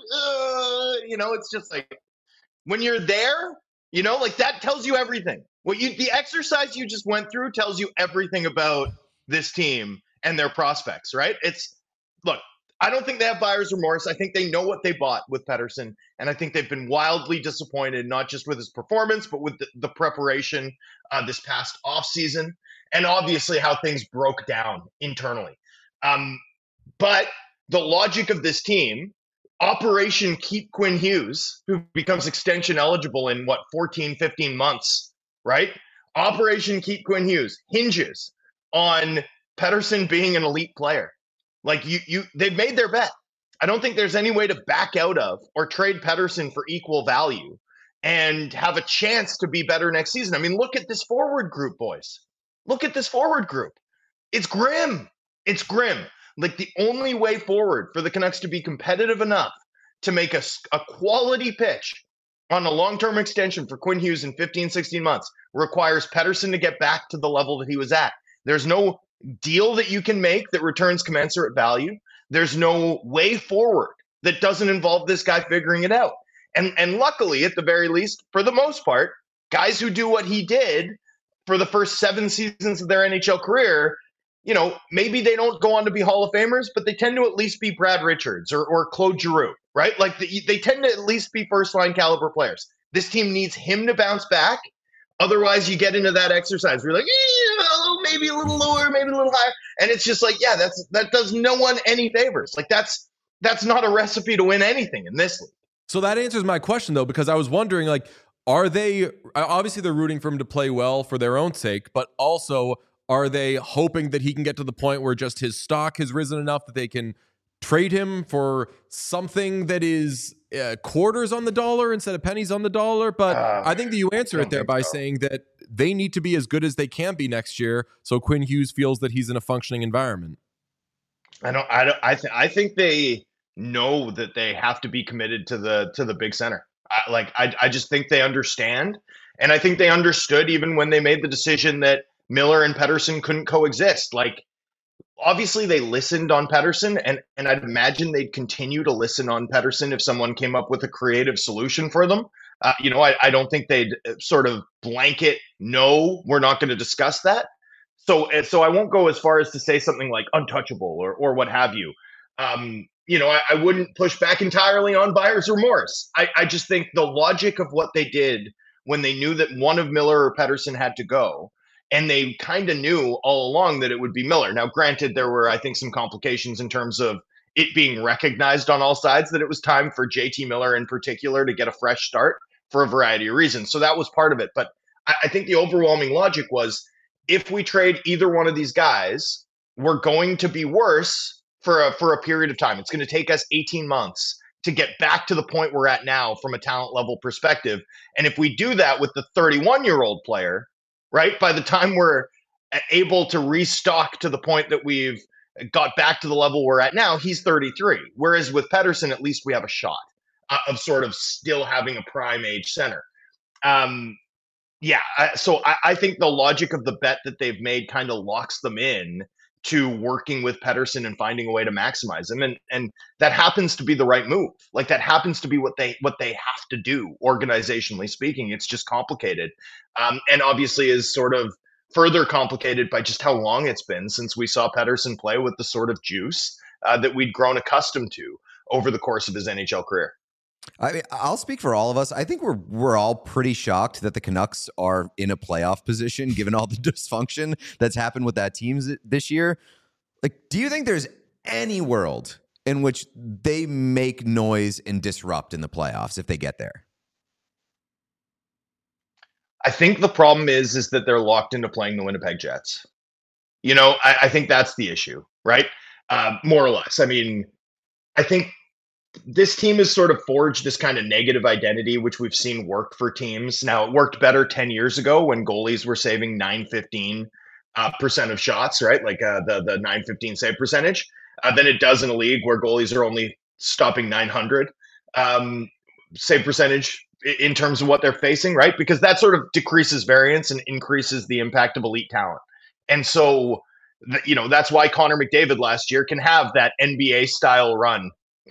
you know, it's just like, when you're there, you know, like, that tells you everything. What you, the exercise you just went through tells you everything about this team and their prospects, right? It's, look, I don't think they have buyer's remorse. I think they know what they bought with Pettersson, and I think they've been wildly disappointed, not just with his performance, but with the, the preparation uh, this past offseason, and obviously how things broke down internally. Um, but the logic of this team, Operation Keep Quinn Hughes, who becomes extension eligible in, what, fourteen, fifteen months, right? Operation Keep Quinn Hughes hinges on Pettersson being an elite player. Like, you, you, they've made their bet. I don't think there's any way to back out of or trade Pettersson for equal value and have a chance to be better next season. I mean, look at this forward group, boys. Look at this forward group. It's grim. It's grim. Like, the only way forward for the Canucks to be competitive enough to make a, a quality pitch on a long-term extension for Quinn Hughes in fifteen, sixteen months requires Pettersson to get back to the level that he was at. There's no deal that you can make that returns commensurate value. There's no way forward that doesn't involve this guy figuring it out. And and luckily, at the very least, for the most part, guys who do what he did for the first seven seasons of their N H L career, you know, maybe they don't go on to be Hall of Famers, but they tend to at least be Brad Richards or, or Claude Giroux, right? Like, the, they tend to at least be first-line caliber players. This team needs him to bounce back. Otherwise, you get into that exercise where you're like, eh, maybe a little lower, maybe a little higher. And it's just like, yeah, that's that does no one any favors. Like, that's that's not a recipe to win anything in this league.
So that answers my question, though, because I was wondering, like, are they, obviously they're rooting for him to play well for their own sake, but also are they hoping that he can get to the point where just his stock has risen enough that they can trade him for something that is uh, quarters on the dollar instead of pennies on the dollar? But uh, I think that you answer it there by so. saying that they need to be as good as they can be next year, so Quinn Hughes feels that he's in a functioning environment.
I don't. I don't. I, th- I think they know that they have to be committed to the to the big center. I, like I, I just think they understand, and I think they understood even when they made the decision that Miller and Pettersson couldn't coexist. Like, obviously they listened on Pettersson, and, and I'd imagine they'd continue to listen on Pettersson if someone came up with a creative solution for them. Uh, you know, I, I don't think they'd sort of blanket, no, we're not going to discuss that. So, so I won't go as far as to say something like untouchable or, or what have you. Um, you know, I, I wouldn't push back entirely on buyer's remorse. I, I just think the logic of what they did when they knew that one of Miller or Pettersson had to go, and they kind of knew all along that it would be Miller. Now, granted, there were, I think, some complications in terms of it being recognized on all sides that it was time for J T Miller in particular to get a fresh start for a variety of reasons. So that was part of it. But I, I think the overwhelming logic was, if we trade either one of these guys, we're going to be worse for a, for a period of time. It's going to take us eighteen months to get back to the point we're at now from a talent level perspective. And if we do that with the thirty-one-year-old player, right, by the time we're able to restock to the point that we've got back to the level we're at now, he's thirty-three. Whereas with Pettersson, at least we have a shot uh, of sort of still having a prime age center. Um, yeah, I, so I, I think the logic of the bet that they've made kind of locks them in to working with Pettersson and finding a way to maximize him. And and that happens to be the right move. Like, that happens to be what they what they have to do, organizationally speaking. It's just complicated. Um, and obviously is sort of further complicated by just how long it's been since we saw Pettersson play with the sort of juice uh, that we'd grown accustomed to over the course of his N H L career.
I mean, I'll speak for all of us. I think we're we're all pretty shocked that the Canucks are in a playoff position, given all the dysfunction that's happened with that team this year. Like, do you think there's any world in which they make noise and disrupt in the playoffs if they get there?
I think the problem is, is that they're locked into playing the Winnipeg Jets. You know, I, I think that's the issue, right? Uh, more or less. I mean, I think this team has sort of forged this kind of negative identity, which we've seen work for teams. Now, it worked better ten years ago when goalies were saving nine fifteen uh, percent of shots, right? Like uh, the, the nine fifteen save percentage, uh, than it does in a league where goalies are only stopping nine hundred um, save percentage in terms of what they're facing, right? Because that sort of decreases variance and increases the impact of elite talent. And so, you know, that's why Connor McDavid last year can have that N B A style run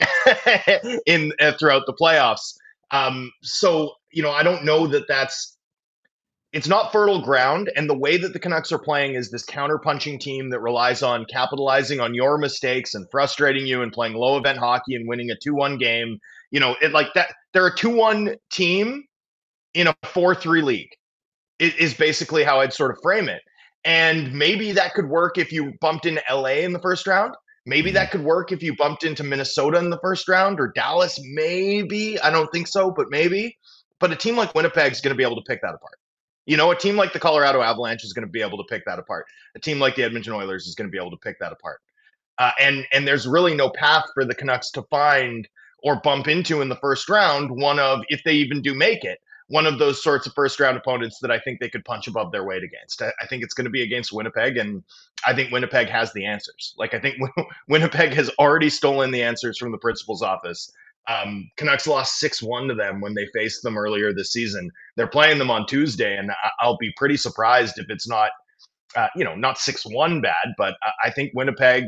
in uh, throughout the playoffs. Um, so, you know, I don't know that that's, it's not fertile ground. And the way that the Canucks are playing is this counter-punching team that relies on capitalizing on your mistakes and frustrating you and playing low event hockey and winning a two one game. You know, it like that. They're a two one team in a four three league is, is basically how I'd sort of frame it. And maybe that could work if you bumped into L A in the first round. Maybe that could work if you bumped into Minnesota in the first round or Dallas. Maybe. I don't think so, but maybe. But a team like Winnipeg is going to be able to pick that apart. You know, a team like the Colorado Avalanche is going to be able to pick that apart. A team like the Edmonton Oilers is going to be able to pick that apart. Uh, and and there's really no path for the Canucks to find or bump into in the first round one of, if they even do make it, one of those sorts of first round opponents that I think they could punch above their weight against. I, I think it's going to be against Winnipeg, and I think Winnipeg has the answers. Like, I think Winnipeg has already stolen the answers from the principal's office. Um, Canucks lost six one to them when they faced them earlier this season. They're playing them on Tuesday, and I, I'll be pretty surprised if it's not, uh, you know, not six one bad, but I, I think Winnipeg,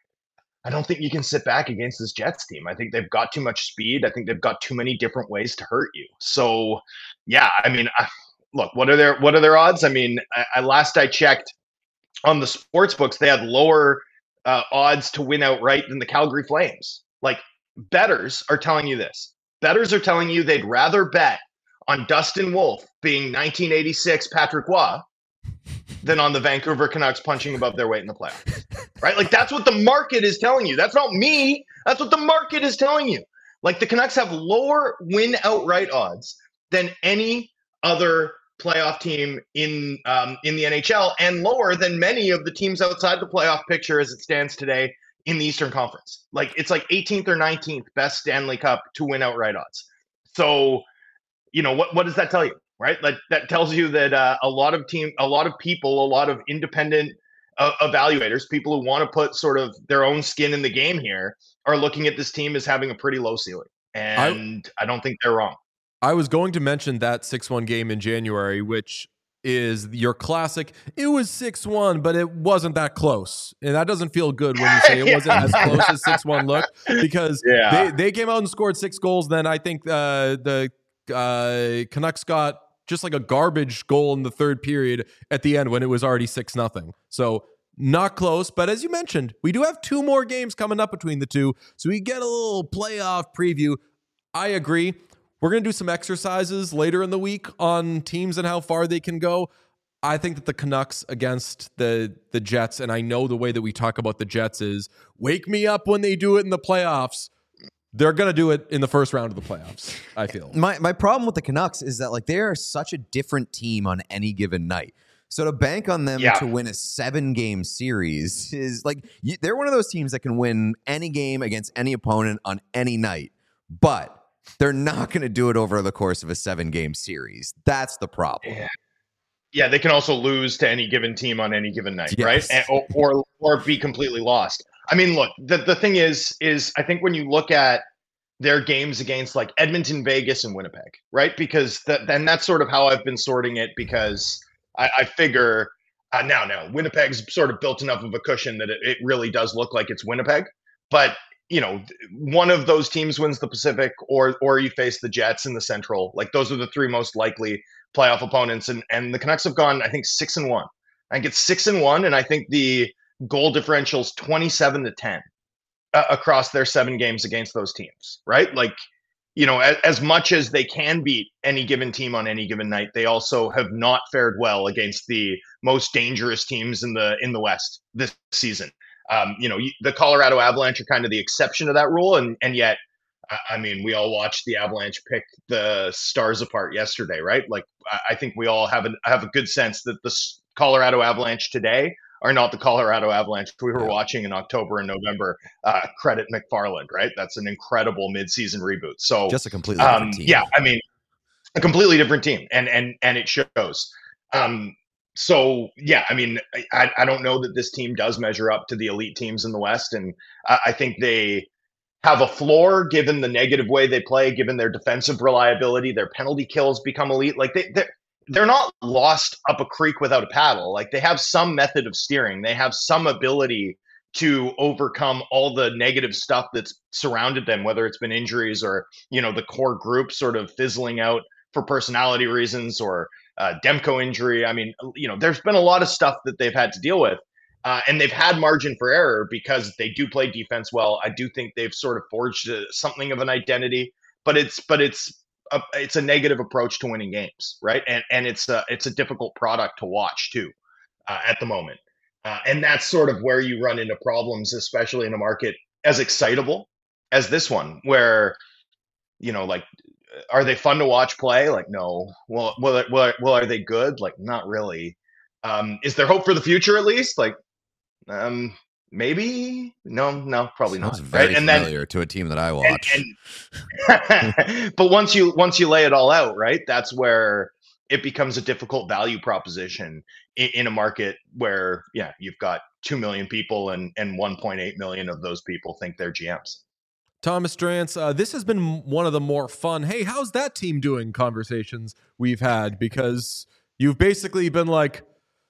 I don't think you can sit back against this Jets team. I think they've got too much speed. I think they've got too many different ways to hurt you. So, yeah, I mean, I, look, what are their what are their odds? I mean, I, I, last I checked on the sports books, they had lower uh, odds to win outright than the Calgary Flames. Like, bettors are telling you this. Bettors are telling you they'd rather bet on Dustin Wolf being nineteen eighty-six Patrick Roy than on the Vancouver Canucks punching above their weight in the playoffs, right? Like, that's what the market is telling you. That's not me. That's what the market is telling you. Like, the Canucks have lower win outright odds than any other playoff team in um, in the N H L, and lower than many of the teams outside the playoff picture as it stands today in the Eastern Conference. Like, it's like eighteenth or nineteenth best Stanley Cup to win outright odds. So, you know, what what does that tell you? Right, that that tells you that uh, a lot of team, a lot of people, a lot of independent uh, evaluators, people who want to put sort of their own skin in the game here, are looking at this team as having a pretty low ceiling, and I, I don't think they're wrong.
I was going to mention that six one game in January, which is your classic. It was six one, but it wasn't that close, and that doesn't feel good when you say it wasn't as close as six one looked, because yeah. they they came out and scored six goals. Then I think uh, the uh, Canucks got just like a garbage goal in the third period at the end when it was already six nothing. So not close, but as you mentioned, we do have two more games coming up between the two, so we get a little playoff preview. I agree. We're going to do some exercises later in the week on teams and how far they can go. I think that the Canucks against the the Jets, and I know the way that we talk about the Jets is wake me up when they do it in the playoffs. They're going to do it in the first round of the playoffs, I feel.
My my problem with the Canucks is that, like, they are such a different team on any given night. So to bank on them yeah. to win a seven-game series is like, you, they're one of those teams that can win any game against any opponent on any night, but they're not going to do it over the course of a seven-game series. That's the problem.
Yeah. Yeah, they can also lose to any given team on any given night,
yes.
right? And, or, or or be completely lost. I mean, look, the, the thing is, is I think when you look at their games against like Edmonton, Vegas, and Winnipeg, right? Because that, then that's sort of how I've been sorting it, because I, I figure uh, now, now Winnipeg's sort of built enough of a cushion that it, it really does look like it's Winnipeg. But, you know, one of those teams wins the Pacific, or or you face the Jets in the Central. Like, those are the three most likely playoff opponents. And, and the Canucks have gone, I think, six and one. I think it's six and one, and I think the goal differential's twenty-seven to ten uh, across their seven games against those teams, right? Like, you know, as, as much as they can beat any given team on any given night, they also have not fared well against the most dangerous teams in the in the West this season. Um, you know, the Colorado Avalanche are kind of the exception to that rule, and and yet, I mean, we all watched the Avalanche pick the Stars apart yesterday, right? Like, I think we all have a have a good sense that the Colorado Avalanche today are not the Colorado Avalanche we were
Yeah.
watching in October and November. Uh, credit McFarland, right? That's an incredible midseason reboot. So
Just a completely
um,
different team.
yeah, I mean, a completely different team, and and and it shows. Um, so yeah, I mean, I, I don't know that this team does measure up to the elite teams in the West, and I, I think they have a floor given the negative way they play, given their defensive reliability. Their penalty kills become elite. Like they they're, they're not lost up a creek without a paddle. Like they have some method of steering. They have some ability to overcome all the negative stuff that's surrounded them, whether it's been injuries or, you know, the core group sort of fizzling out for personality reasons or uh, Demko injury. I mean, you know, there's been a lot of stuff that they've had to deal with. Uh, and they've had margin for error because they do play defense well. I do think they've sort of forged a, something of an identity, but it's but it's a, it's a negative approach to winning games, right? And and it's a it's a difficult product to watch too uh, at the moment. Uh, and that's sort of where you run into problems, especially in a market as excitable as this one, where, you know, like, are they fun to watch play? Like, no. Well, well, well, well are they good? Like, not really. Um, is there hope for the future at least? Like, um, maybe? No, no, probably
Sounds
not.
very
Right? And
familiar
then,
to a team that I watch.
and, and but once you once you lay it all out, right, that's where it becomes a difficult value proposition in, in a market where, yeah, you've got two million people and and one point eight million of those people think they're G Ms.
Thomas Drance, uh, this has been one of the more fun, hey, how's that team doing conversations we've had, because you've basically been like,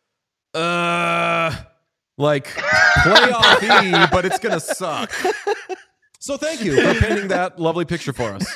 uh, like playoff-y, but it's going to suck. So thank you for painting that lovely picture for us.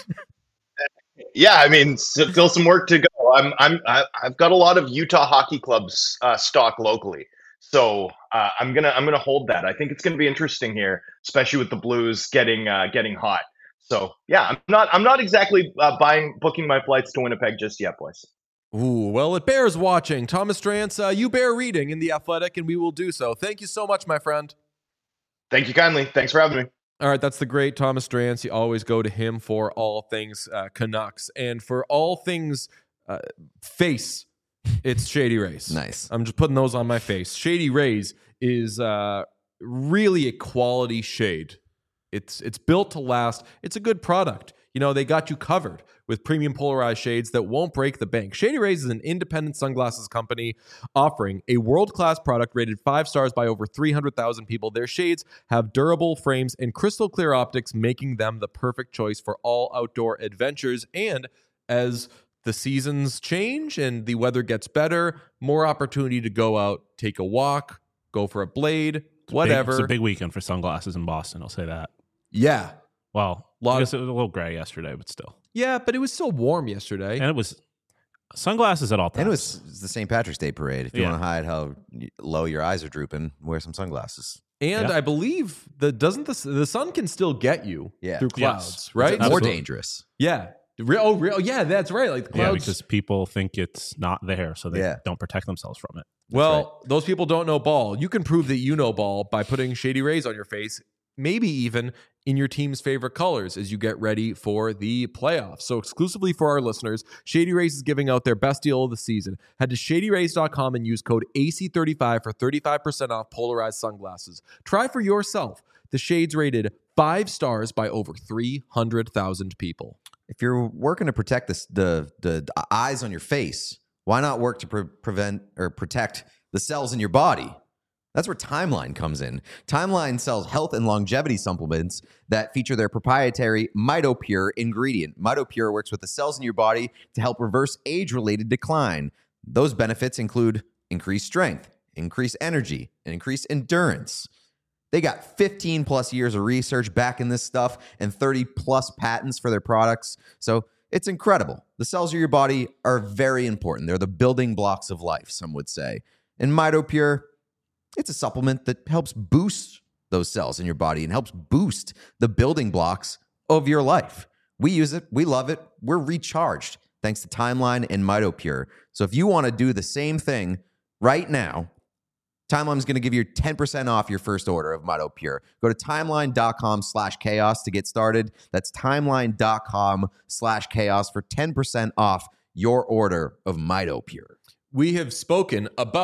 Yeah, I mean, still some work to go. I'm, I'm, I've got a lot of Utah Hockey Club's uh, stock locally, so uh, I'm gonna, I'm gonna hold that. I think it's gonna be interesting here, especially with the Blues getting, uh, getting hot. So yeah, I'm not, I'm not exactly uh, buying, booking my flights to Winnipeg just yet, boys.
Ooh, well, it bears watching. Thomas Drance, uh, you bear reading in The Athletic, and we will do so. Thank you so much, my friend.
Thank you kindly. Thanks for having me.
All right, that's the great Thomas Drance. You always go to him for all things uh, Canucks. And for all things uh, face, it's Shady Rays.
Nice.
I'm just putting those on my face. Shady Rays is uh, really a quality shade. It's it's built to last. It's a good product. You know, they got you covered with premium polarized shades that won't break the bank. Shady Rays is an independent sunglasses company offering a world-class product rated five stars by over three hundred thousand people. Their shades have durable frames and crystal clear optics, making them the perfect choice for all outdoor adventures. And as the seasons change and the weather gets better, more opportunity to go out, take a walk, go for a blade, whatever.
Big, it's a big weekend for sunglasses in Boston, I'll say that.
Yeah.
Well,
Lot
I guess
of-
it was a little gray yesterday, but still.
Yeah, but it was still warm yesterday.
And it was sunglasses at all times.
And it was, it was the Saint Patrick's Day parade. If you
Yeah.
want to hide how low your eyes are drooping, wear some sunglasses.
And
Yeah.
I believe the doesn't the the sun can still get you
Yeah.
through
Yes.
clouds, right?
It's more
Absolutely.
dangerous.
Yeah. Re- oh, re- oh, yeah, that's right. Like the
Yeah,
clouds.
because people think it's not there, so they
Yeah.
don't protect themselves from it.
well, those people don't know ball. You can prove that you know ball by putting Shady Rays on your face, maybe even in your team's favorite colors as you get ready for the playoffs. So exclusively for our listeners, Shady Rays is giving out their best deal of the season. Head to shady rays dot com and use code A C thirty-five for thirty-five percent off polarized sunglasses. Try for yourself. The shades rated five stars by over three hundred thousand people.
If you're working to protect the, the, the eyes on your face, why not work to pre- prevent or protect the cells in your body? That's where Timeline comes in. Timeline sells health and longevity supplements that feature their proprietary MitoPure ingredient. MitoPure works with the cells in your body to help reverse age-related decline. Those benefits include increased strength, increased energy, and increased endurance. They got fifteen plus years of research backing this stuff and thirty plus patents for their products. So it's incredible. The cells of your body are very important. They're the building blocks of life, some would say. And MitoPure, it's a supplement that helps boost those cells in your body and helps boost the building blocks of your life. We use it. We love it. We're recharged thanks to Timeline and MitoPure. So if you want to do the same thing right now, Timeline is going to give you ten percent off your first order of MitoPure. Go to timeline.com slash chaos to get started. That's timeline.com slash chaos for ten percent off your order of MitoPure.
We have spoken about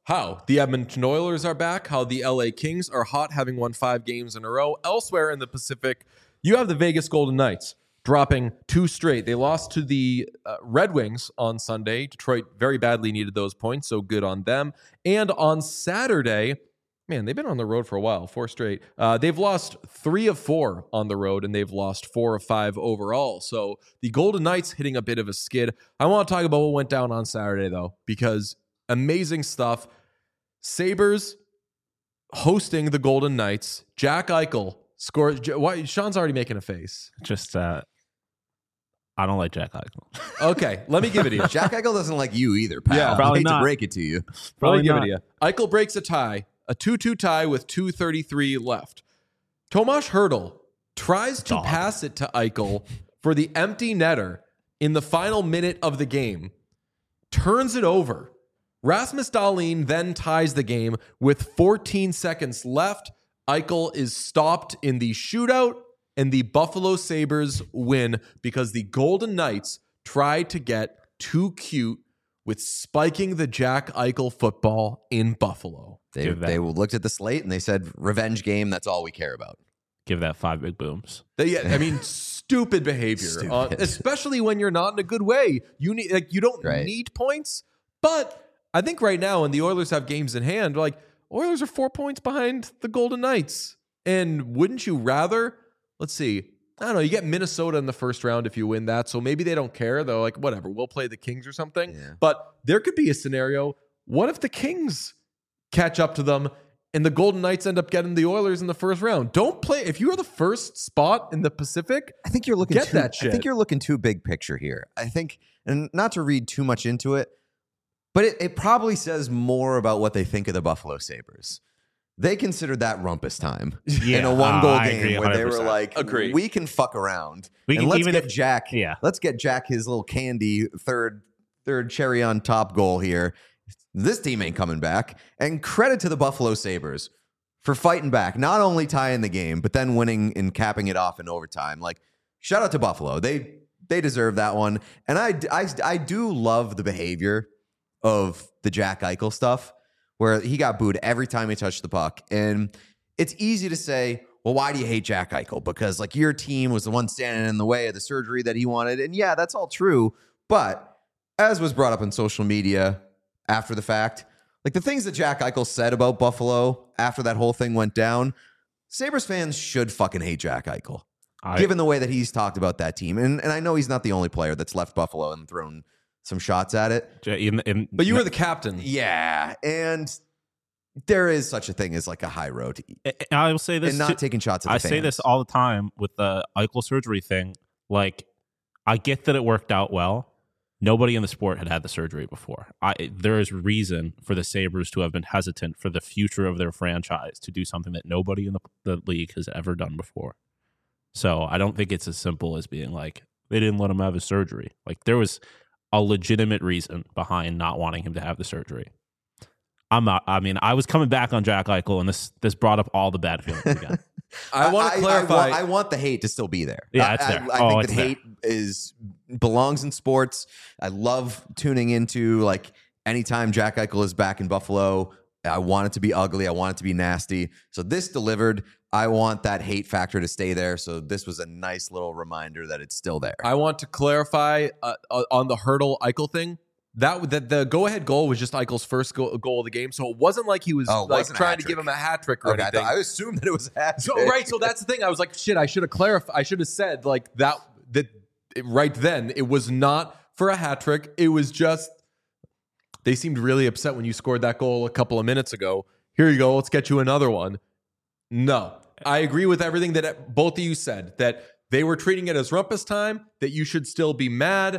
how the Edmonton Oilers are back, how the L A Kings are hot, having won five games in a row. Elsewhere in the Pacific, you have the Vegas Golden Knights dropping two straight. They lost to the uh, Red Wings on Sunday. Detroit very badly needed those points, so good on them. And on Saturday, man, they've been on the road for a while, four straight. Uh, they've lost three of four on the road, and they've lost four of five overall. So the Golden Knights hitting a bit of a skid. I want to talk about what went down on Saturday, though, because amazing stuff. Sabres hosting the Golden Knights. Jack Eichel scores. Why? Sean's already making a face.
Just, uh, I don't like Jack Eichel.
Okay, let me give it to you.
Jack Eichel doesn't like you either, pal.
Yeah,
I
probably
hate
not.
to break it to you.
Let me
Probably
give it
not.
to you. Eichel breaks a tie, a two two tie with two thirty-three left. Tomas Hertl tries to
Dog.
pass it to Eichel for the empty netter in the final minute of the game, turns it over. Rasmus Dahlin then ties the game with fourteen seconds left. Eichel is stopped in the shootout, and the Buffalo Sabres win because the Golden Knights tried to get too cute with spiking the Jack Eichel football in Buffalo.
They,
Give that.
they looked at the slate and they said, revenge game, that's all we care about.
Give that five big booms.
They, yeah, I mean, stupid behavior,
Stupid.
uh, especially when you're not in a good way. You need, like, you don't
Right.
need points, but I think right now, when the Oilers have games in hand, like, Oilers are four points behind the Golden Knights, and wouldn't you rather? Let's see. I don't know. You get Minnesota in the first round if you win that, so maybe they don't care. Though, like, whatever. We'll play the Kings or something.
Yeah.
But there could be a scenario. What if the Kings catch up to them and the Golden Knights end up getting the Oilers in the first round? Don't play. If you are the first spot in the Pacific,
I think you're looking
Get
too,
that
I
shit.
think you're looking too big picture here. I think, and not to read too much into it, but it, it probably says more about what they think of the Buffalo Sabres. They considered that rumpus time
Yeah,
in a one goal
uh, I
game
agree
where they were
one hundred percent.
like,
Agreed.
we can fuck around.
We
and
can-
let's
even
get
if-
Jack.
yeah.
Let's get Jack his little candy third third cherry on top goal here. This team ain't coming back. And credit to the Buffalo Sabres for fighting back, not only tying the game, but then winning and capping it off in overtime. Like, shout out to Buffalo. They they deserve that one. And I, I, I do love the behavior of the Jack Eichel stuff, where he got booed every time he touched the puck. And it's easy to say, well, why do you hate Jack Eichel? Because, like, your team was the one standing in the way of the surgery that he wanted. And yeah, that's all true. But as was brought up on social media after the fact, like, the things that Jack Eichel said about Buffalo after that whole thing went down, Sabres fans should fucking hate Jack Eichel,
I,
given the way that he's talked about that team. And, and I know he's not the only player that's left Buffalo and thrown some shots at it.
in, in,
but you were the captain.
Yeah, and there is such a thing as like a high road,
I will say this.
and not
too-
taking shots at the
I
fans.
say this all the time with the Eichel surgery thing. Like, I get that it worked out well. Nobody in the sport had had the surgery before. I, there is reason for the Sabres to have been hesitant for the future of their franchise to do something that nobody in the, the league has ever done before. So I don't think it's as simple as being like, they didn't let him have his surgery. Like, there was a legitimate reason behind not wanting him to have the surgery. I'm not, I mean, I was coming back on Jack Eichel, and this this brought up all the bad feelings again.
I want to clarify.
I, want, I want the hate to still be there.
Yeah,
I,
it's there.
I, I
Oh,
think
it's
that
there.
hate is belongs in sports. I love tuning into, like, anytime Jack Eichel is back in Buffalo. I want it to be ugly. I want it to be nasty. So this delivered. I want that hate factor to stay there. So this was a nice little reminder that it's still there.
I want to clarify uh, uh, on the Hertl Eichel thing. That that the go ahead goal was just Eichel's first goal, goal of the game, so it wasn't like he was
Oh, it
like
wasn't a
trying
hat
to
trick.
give him a hat trick or
Okay, I,
anything.
thought, I assumed that it was a hat
So
trick.
right, so that's the thing. I was like, shit, I should have clarified. I should have said like that. That right then, it was not for a hat trick. It was just they seemed really upset when you scored that goal a couple of minutes ago. Here you go. Let's get you another one. No, I agree with everything that both of you said. That they were treating it as rumpus time. That you should still be mad.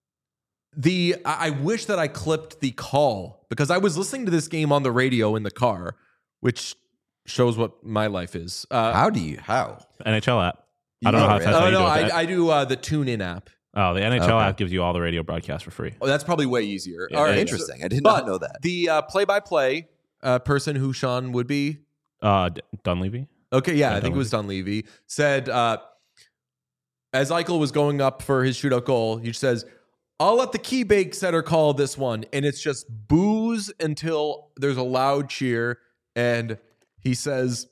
The I I wish that I clipped the call because I was listening to this game on the radio in the car, which shows what my life is. Uh,
How do you? How?
N H L app. I don't know
Oh,
how
really?
that's how
oh
you
no,
do it.
I,
That-
I do uh, the TuneIn app.
oh, the N H L
Okay.
app gives you all the radio broadcasts for free.
Oh, that's probably way easier.
Yeah,
All right,
Interesting. I did
but
not know that.
The uh, play-by-play uh, person who Sean would be.
Uh, D- Dunleavy.
Okay, yeah,
Yeah,
I think it was Dunleavy. Said uh, as Eichel was going up for his shootout goal, he says, I'll let the key bake setter call this one, and it's just boos until there's a loud cheer, and he says,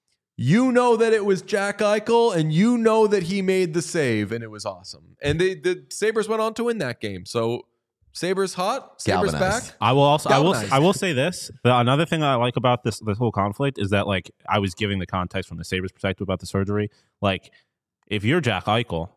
"You know that it was Jack Eichel, and you know that he made the save, and it was awesome." And they, the Sabres went on to win that game. So Sabres hot, Sabres
Galvanized.
back.
I will also I will
Galvanized.
I will say this. The, another thing I like about this this whole conflict is that like I was giving the context from the Sabres perspective about the surgery. Like if you're Jack Eichel,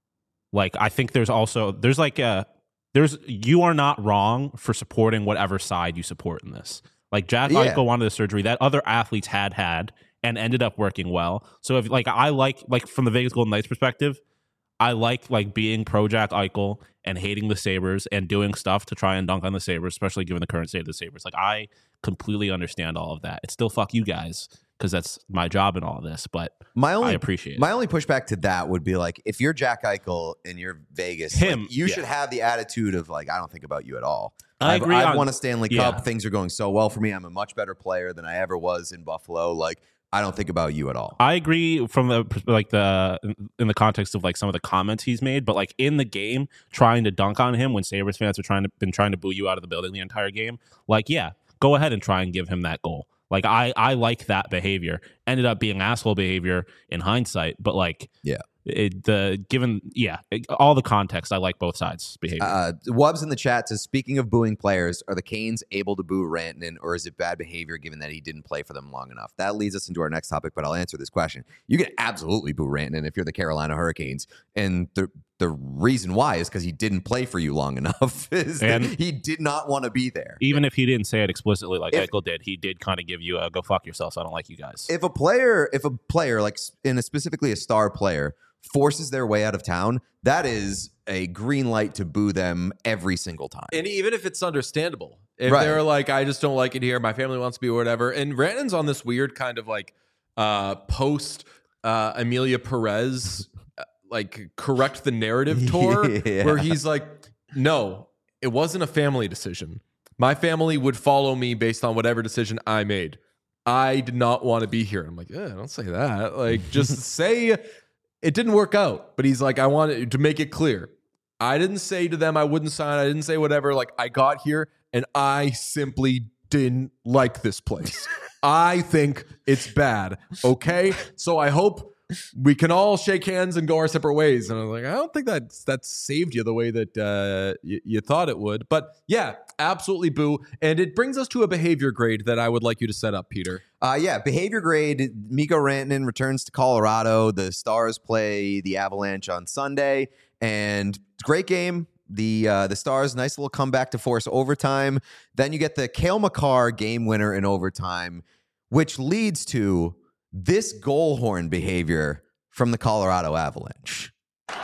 like I think there's also there's like a there's you are not wrong for supporting whatever side you support in this. Like Jack
Yeah.
Eichel wanted the surgery that other athletes had had and ended up working well. So if like I like like from the Vegas Golden Knights perspective, I like like being pro Jack Eichel and hating the Sabres and doing stuff to try and dunk on the Sabres, especially given the current state of the Sabres. Like I completely understand all of that. It's still fuck you guys because that's my job in all of this, but
My only
I appreciate it.
My only pushback to that would be like, if you're Jack Eichel and you're Vegas,
Him,
like, you
yeah.
should have the attitude of like, I don't think about you at all.
I
I've,
agree
I've
on-
won a Stanley
yeah.
Cup. Things are going so well for me. I'm a much better player than I ever was in Buffalo. Like, I don't think about you at all.
I agree from the pers- like the in the context of like some of the comments he's made, but like in the game, trying to dunk on him when Sabres fans are trying to been trying to boo you out of the building the entire game. Like, yeah, go ahead and try and give him that goal. Like, I I like that behavior. Ended up being asshole behavior in hindsight, but like,
Yeah.
it, the given yeah, it- all the context, I like both sides' behavior.
Uh, Wubbs in the chat says, speaking of booing players, are the Canes able to boo Rantanen, or is it bad behavior given that he didn't play for them long enough? That leads us into our next topic, but I'll answer this question. You can absolutely boo Rantanen if you're the Carolina Hurricanes, and the the reason why is because he didn't play for you long enough. is that
And-
he did not want to be there.
Even if he didn't say it explicitly like
If-
Eichel did, he did kind of give you a go fuck yourself. So I don't like you guys.
If a player, if a player, like in a specifically a star player, forces their way out of town, that is a green light to boo them every single time.
And even if it's understandable, if
Right.
they're like, I just don't like it here, my family wants to be or whatever. And Rantanen's on this weird kind of like uh, post uh, Amelia Perez, uh, like correct the narrative tour,
Yeah.
where he's like, no, it wasn't a family decision. My family would follow me based on whatever decision I made. I did not want to be here. I'm like, yeah, don't say that. Like, just say it didn't work out. But he's like, I wanted to make it clear. I didn't say to them I wouldn't sign. I didn't say whatever. Like, I got here and I simply didn't like this place. I think it's bad. Okay. So I hope we can all shake hands and go our separate ways. And I was like, I don't think that that saved you the way that uh, y- you thought it would. But yeah, absolutely boo. And it brings us to a behavior grade that I would like you to set up, Peter.
Uh, yeah, behavior grade. Mikko Rantanen returns to Colorado. The Stars play the Avalanche on Sunday, and great game. The uh, the Stars, nice little comeback to force overtime. Then you get the Cale Makar game winner in overtime, which leads to this goal horn behavior from the Colorado Avalanche.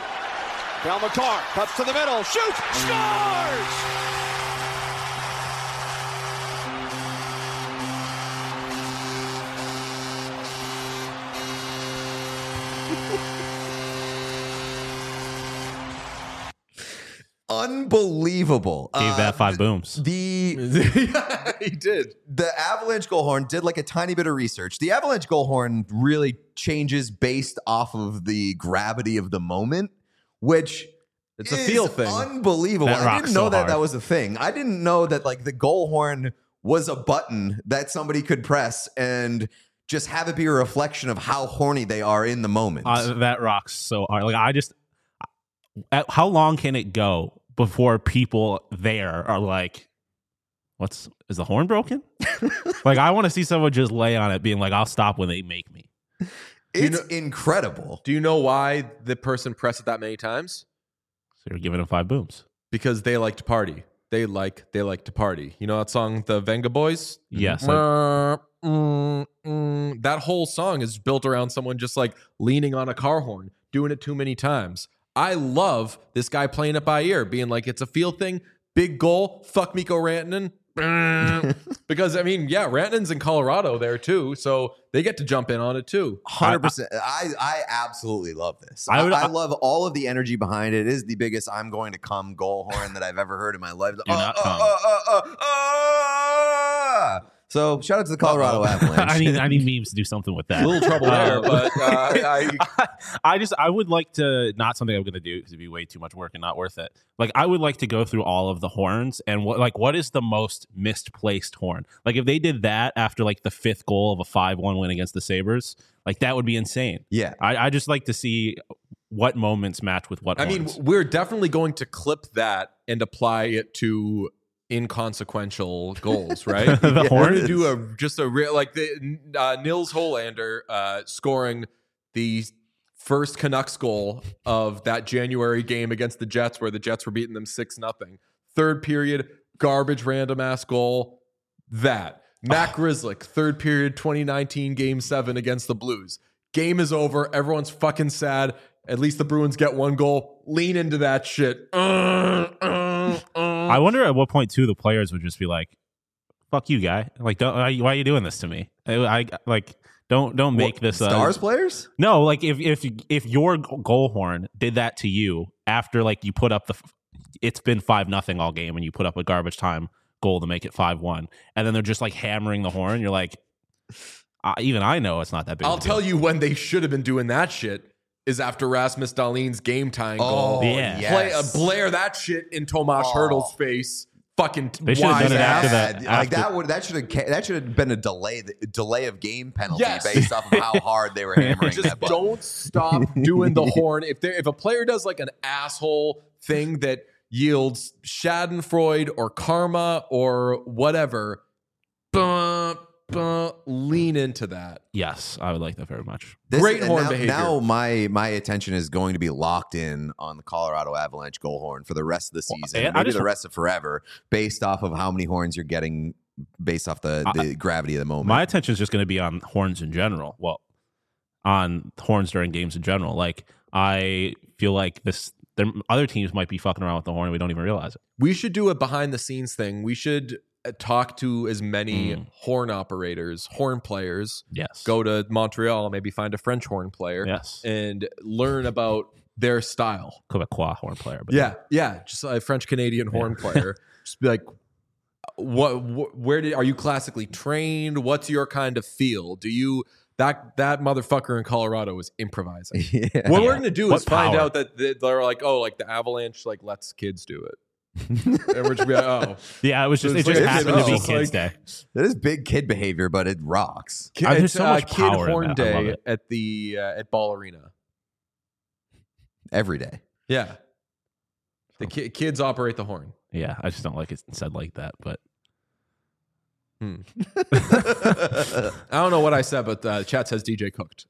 Cale Makar cuts to the middle, shoots, scores!
Unbelievable.
Gave
Uh,
that five booms.
The
Yeah, he did.
the Avalanche goal horn did like a tiny bit of research. The Avalanche goal horn really changes based off of the gravity of the moment, which
It's a
is
feel thing.
Unbelievable.
That
I
rocks
didn't know
so
that
hard.
that was a thing. I didn't know that like the goal horn was a button that somebody could press and just have it be a reflection of how horny they are in the moment.
Uh, that rocks so hard. Like I just, at, how long can it go before people there are like, "What's is the horn broken?" Like I want to see someone just lay on it, being like, "I'll stop when they make me."
it's
know-
incredible.
Do you know why the person pressed it that many times?
So you're giving them five booms.
Because they like to party. They like they like to party. You know that song, the Venga Boys?
Yes, I-
Mm, mm, mm. That whole song is built around someone just like leaning on a car horn, doing it too many times. I love this guy playing it by ear, being like, it's a feel thing, big goal, fuck Mikko Rantanen. Because, I mean, yeah, Rantanen's in Colorado there too, so they get to jump in on it too.
one hundred percent. I, I absolutely love this.
I
I,
would-
I love all of the energy behind it. It is the biggest I'm going to come goal horn that I've ever heard in my life.
Do not come.
uh, uh, uh, uh. So shout out to the Colorado Avalanche.
I need I need memes to do something with that.
A little trouble there, but uh, I,
I just I would like to not something I'm going to do because it'd be way too much work and not worth it. Like I would like to go through all of the horns and what like what is the most misplaced horn? Like if they did that after like the fifth goal of a five one win against the Sabres, like that would be insane.
Yeah.
I, I just like to see what moments match with what.
I mean,
horns.
we're definitely going to clip that and apply it to inconsequential goals, right?
The
We're
horn?
going to do a just a real like the uh, Nils Holander uh, scoring the first Canucks goal of that January game against the Jets, where the Jets were beating them six nothing. Third period, garbage random ass goal. That Matt Grzelcyk, third period, twenty nineteen game seven against the Blues. Game is over. Everyone's fucking sad. At least the Bruins get one goal. Lean into that shit. Uh, uh, uh.
I wonder at what point too the players would just be like, "Fuck you, guy! Like, don't why, why are you doing this to me? I, I like don't don't make
What,
this
Stars
uh,
players?
No, like if if if your goal horn did that to you after like you put up the, it's been five nothing all game and you put up a garbage time goal to make it five one, and then they're just like hammering the horn. You're like, uh, even I know it's not that big.
I'll
of a deal.
tell you when they should have been doing that shit is after Rasmus Dahlin's game tying
Oh,
goal.
Yeah.
Play, uh,
yes.
blare that shit in Tomas
Oh.
Hertl's face. Fucking
They should have done it
wise
after
ass.
that.
Yeah, like
after-
that would that should have that should have been a delay delay of game penalty
Yes.
based off of how hard they were hammering
Just
that button.
don't stop doing the horn. If there, if a player does like an asshole thing that yields Schadenfreude or karma or whatever, buh, buh, lean into that.
Yes, I would like that very much.
This-
Great
and
horn
now,
behavior.
Now my my attention is going to be locked in on the Colorado Avalanche goal horn for the rest of the season,
and I
maybe
just-
the rest of forever, based off of how many horns you're getting, based off the, the gravity of the moment.
My attention is just going to be on horns in general. Well, on horns during games in general. Like I feel like this, there, other teams might be fucking around with the horn and we don't even realize it.
We should do a behind the scenes thing. We should uh, talk to as many
Mm.
horn operators, horn players.
Yes.
Go to Montreal, maybe find a French horn player,
Yes.
and learn about their style.
Quebecois horn player. But
Yeah, yeah, just a French Canadian horn player. Just be like, what, wh- where did are you classically trained? What's your kind of feel? Do you that that motherfucker in Colorado is improvising?
Yeah.
What we're gonna do
What
is find
power?
out that they- they're like, oh, like the Avalanche like lets kids do it, and we're just be like, oh,
Yeah, it was just
It's
it just
like-
happened to be
it's
Kids
like-
Day.
That is big kid behavior, but it rocks.
Ki-
Uh, there's
it's
so
uh,
much
Kid
power in
Horn
that. I love
Day
it.
at the uh, at Ball Arena.
Every day.
Yeah, the ki- kids operate the horn.
Yeah, I just don't like it said like that. But
I don't know what I said, but uh, chat says D J cooked.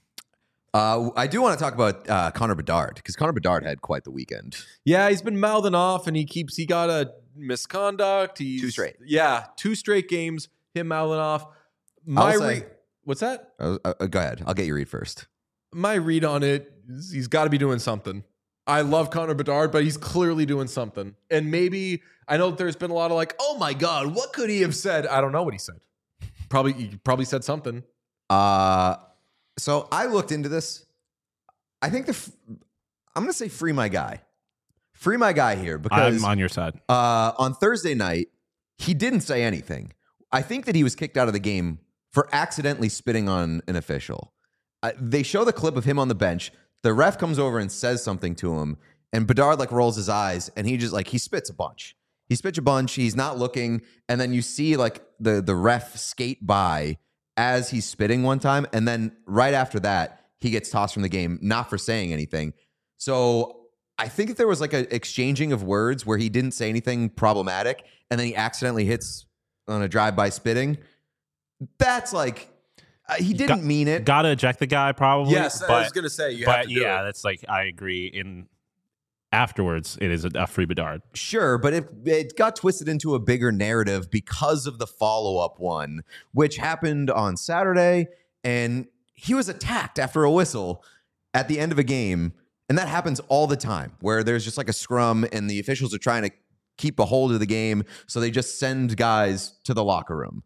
Uh, I do want to talk about uh, Connor Bedard because Connor Bedard had quite the weekend.
Yeah, he's been mouthing off, and he keeps he got a misconduct. He's,
Two straight.
Yeah, two straight games. Him mouthing off. My
I'll
re-
say-
what's that?
Uh, uh, go ahead. I'll get your read first.
My read on it is he's got to be doing something. I love Connor Bedard, but he's clearly doing something. And maybe I know that there's been a lot of like, oh my god, what could he have said? I don't know what he said. Probably he probably said something.
Uh, so I looked into this. I think the f- I'm going to say free my guy. Free my guy here because
I'm on your side.
uh, on Thursday night, he didn't say anything. I think that he was kicked out of the game for accidentally spitting on an official. Uh, they show the clip of him on the bench. The ref comes over and says something to him, and Bedard like rolls his eyes, and he just like he spits a bunch. He spits a bunch. He's not looking, and then you see like the the ref skate by as he's spitting one time, and then right after that, he gets tossed from the game, not for saying anything. So I think if there was like an exchanging of words where he didn't say anything problematic, and then he accidentally hits on a drive-by spitting, that's like uh, he didn't
Got-
mean it.
Gotta eject the guy probably.
Yes, I
but,
was gonna say you have
but
to do
yeah,
it.
that's like I agree. In afterwards, it is a, a free Bedard.
Sure, but it, it got twisted into a bigger narrative because of the follow-up one, which happened on Saturday, and he was attacked after a whistle at the end of a game, and that happens all the time, where there's just like a scrum, and the officials are trying to keep a hold of the game, so they just send guys to the locker room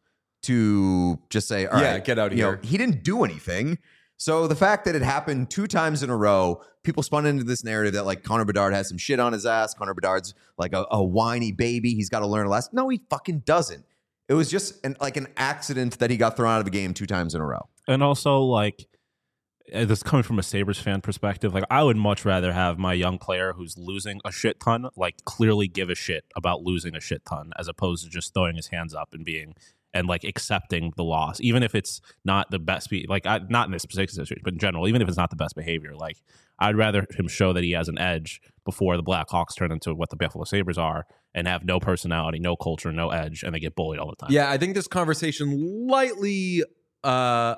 to just say, all right,
Yeah, get out of
you know,
here.
he didn't do anything. So the fact that it happened two times in a row, people spun into this narrative that like Connor Bedard has some shit on his ass. Connor Bedard's like a, a whiny baby. He's got to learn a lesson. No, he fucking doesn't. It was just an, like an accident that he got thrown out of a game two times in a row.
And also, like, uh, this coming from a Sabres fan perspective, like, I would much rather have my young player who's losing a shit ton, like, clearly give a shit about losing a shit ton, as opposed to just throwing his hands up and being and like accepting the loss, even if it's not the best. Be- like, I, not in this specific situation, but in general, even if it's not the best behavior, like, I'd rather him show that he has an edge before the Blackhawks turn into what the Buffalo Sabres are and have no personality, no culture, no edge, and they get bullied all the time.
Yeah, I think this conversation lightly uh,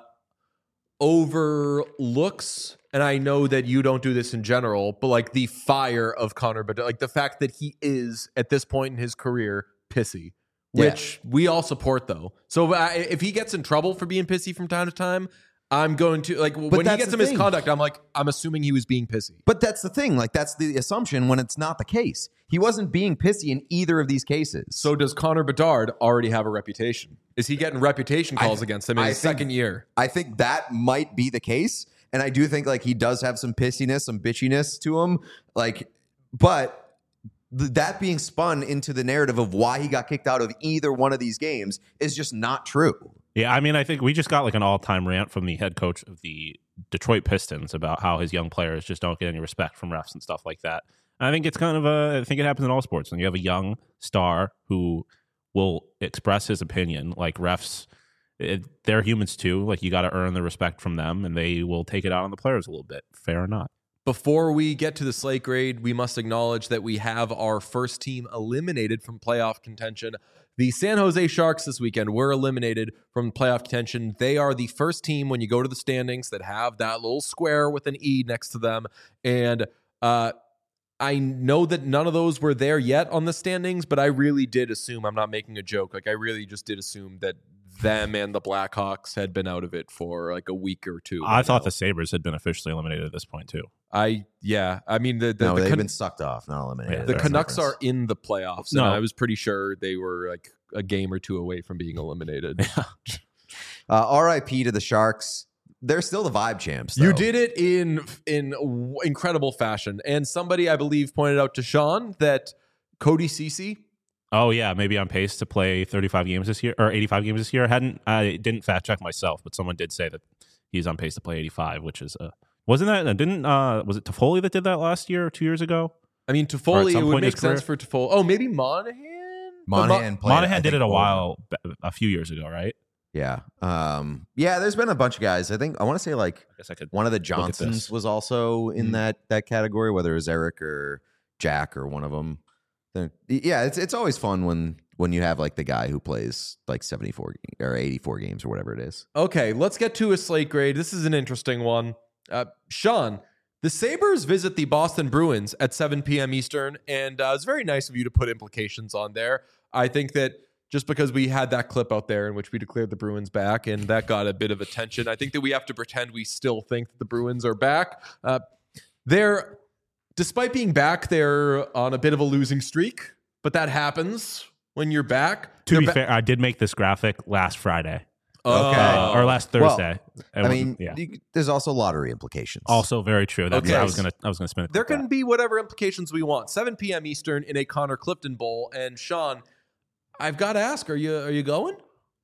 overlooks, and I know that you don't do this in general, but like the fire of Connor Bedard, like the fact that he is at this point in his career pissy, which yeah. we all support though. So uh, if he gets in trouble for being pissy from time to time, I'm going to like but when he gets some misconduct, I'm like, I'm assuming he was being pissy.
But that's the thing. Like, that's the assumption when it's not the case. He wasn't being pissy in either of these cases.
So does Connor Bedard already have a reputation? Is he getting reputation calls th- against him in I his think, second year?
I think that might be the case. And I do think like he does have some pissiness, some bitchiness to him. Like, but th- that being spun into the narrative of why he got kicked out of either one of these games is just not true.
Yeah, I mean, I think we just got like an all-time rant from the head coach of the Detroit Pistons about how his young players just don't get any respect from refs and stuff like that. And I think it's kind of a, I think it happens in all sports. When you have a young star who will express his opinion, like refs, it, they're humans too. Like, you got to earn the respect from them, and they will take it out on the players a little bit, fair or not.
Before we get to the slate grade, we must acknowledge that we have our first team eliminated from playoff contention. The San Jose Sharks this weekend were eliminated from playoff contention. They are the first team when you go to the standings that have that little square with an E next to them. And uh, I know that none of those were there yet on the standings, but I really did assume, I'm not making a joke, like I really just did assume that them and the Blackhawks had been out of it for like a week or two.
I thought the Sabres had been officially eliminated at this point too.
I yeah, I mean the, the
no,
the
they've
Can-
been sucked off, not eliminated.
Yeah, the
That's
Canucks
difference.
are in the playoffs,
No.
and I was pretty sure they were like a game or two away from being eliminated.
uh, R I P to the Sharks. They're still the vibe champs, though.
You did it in in w- incredible fashion, and somebody I believe pointed out to Sean that Cody Ceci.
Oh yeah, maybe on pace to play thirty-five games this year or eighty-five games this year. I hadn't I didn't fact check myself, but someone did say that he's on pace to play eighty-five, which is uh wasn't that didn't uh was it Toffoli that did that last year or two years ago?
I mean, Toffoli, it would make sense for Toffoli. Oh, maybe Monahan.
Monahan,
Mo-
played,
Monahan
I
did
think,
it a
over.
while a few years ago, right?
Yeah, um, yeah. There's been a bunch of guys. I think I want to say like
I guess I could.
one of the
at
Johnsons
this.
was also in
Mm.
that that category, whether it was Eric or Jack or one of them. They're- Yeah, it's it's always fun when when you have like the guy who plays like seventy-four or eighty-four games or whatever it is.
Okay, let's get to a slate grade. This is an interesting one. Uh, Sean, the Sabres visit the Boston Bruins at seven p.m. Eastern, and uh, it's very nice of you to put implications on there. I think that just because we had that clip out there in which we declared the Bruins back, and that got a bit of attention, I think that we have to pretend we still think that the Bruins are back. Uh, they're, despite being back, they're on a bit of a losing streak, but that happens when you're back.
To
They're
be
ba-
fair, I did make this graphic last Friday
Oh.
uh, or last
Well,
Thursday. It
I
wasn't-
mean,
yeah.
you, there's also lottery implications.
Also very true. That's
Okay.
I was gonna I was gonna spin it.
There
like that.
can be whatever implications we want. seven p.m. Eastern in a Connor Clifton Bowl. And Sean, I've got to ask, are you are you going?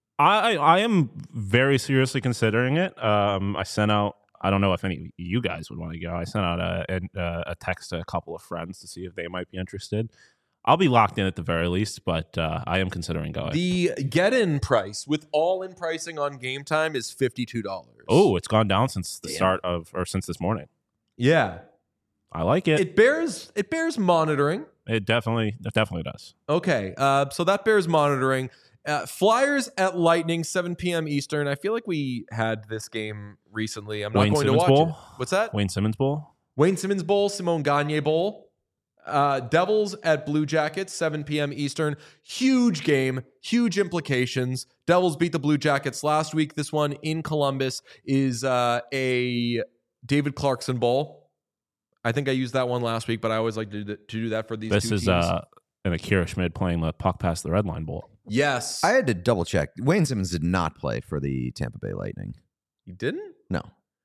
I I am very seriously considering it. Um, I sent out. I don't know if any of you guys would want to go. I sent out a a, a text to a couple of friends to see if they might be interested. I'll be locked in at the very least, but uh, I am considering going.
The get-in price with all-in pricing on Game Time is fifty-two dollars.
Oh, it's gone down since the
Damn.
start of or since this morning.
Yeah.
I like it. It,
It bears it bears monitoring.
definitely it definitely does.
Okay, uh, so that bears monitoring. Uh, Flyers at Lightning, seven p.m. Eastern. I feel like we had this game recently. I'm not
Wayne
going
Simmons
to watch
Bowl?
it. What's that?
Wayne Simmons Bowl.
Wayne Simmons Bowl, Simone Gagne Bowl. Uh, Devils at Blue Jackets, seven p.m. Eastern. Huge game, huge implications. Devils beat the Blue Jackets last week. This one in Columbus is uh, a David Clarkson Bowl. I think I used that one last week, but I always like to do that, to do that for these
This
two
is
teams.
uh, an Akira Schmid playing the puck past the red line bowl.
Yes.
I had to double check. Wayne Simmons did not play for the Tampa Bay Lightning.
You didn't?
No.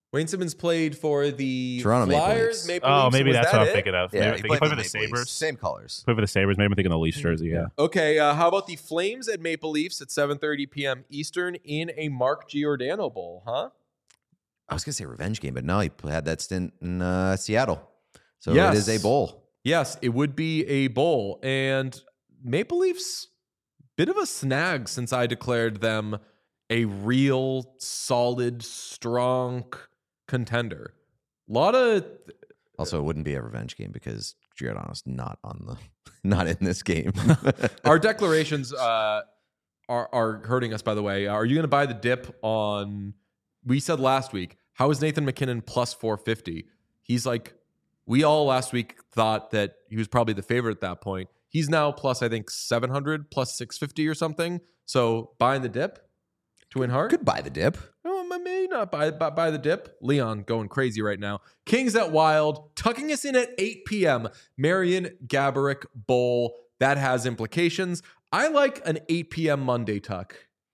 Wayne Simmons played for the
Toronto Maple
Flyers.
Leafs.
Maple
Oh,
Leafs.
maybe
Was
that's
that
what I'm
it?
thinking of.
Yeah,
Maybe,
he
he
played
played
for
for
the
the
Maple Leafs.
Sabres.
Same colors.
Played for the Sabres. Maybe I'm thinking the Leafs jersey. Yeah.
Okay, uh, how about the Flames at Maple Leafs at seven thirty p.m. Eastern in a Mark Giordano Bowl, huh?
I was gonna say revenge game, but no, he had that stint in uh, Seattle, so
Yes.
it is a bowl.
Yes, it would be a bowl. And Maple Leafs, bit of a snag since I declared them a real, solid, strong contender. A lot of...
Also, it wouldn't be a revenge game because Giordano's not on the, not in this game.
Our declarations uh, are, are hurting us, by the way. Are you going to buy the dip on... We said last week, how is Nathan McKinnon plus four fifty? He's like... We all last week thought that he was probably the favorite at that point. He's now plus, I think, seven hundred, plus six fifty or something. So buying the dip to win hard?
Could buy the dip.
Oh, I may not buy, buy, buy the dip. Leon going crazy right now. Kings at Wild, tucking us in at eight p.m. Marion Gaborik Bowl. That has implications. I like an eight p.m. Monday tuck.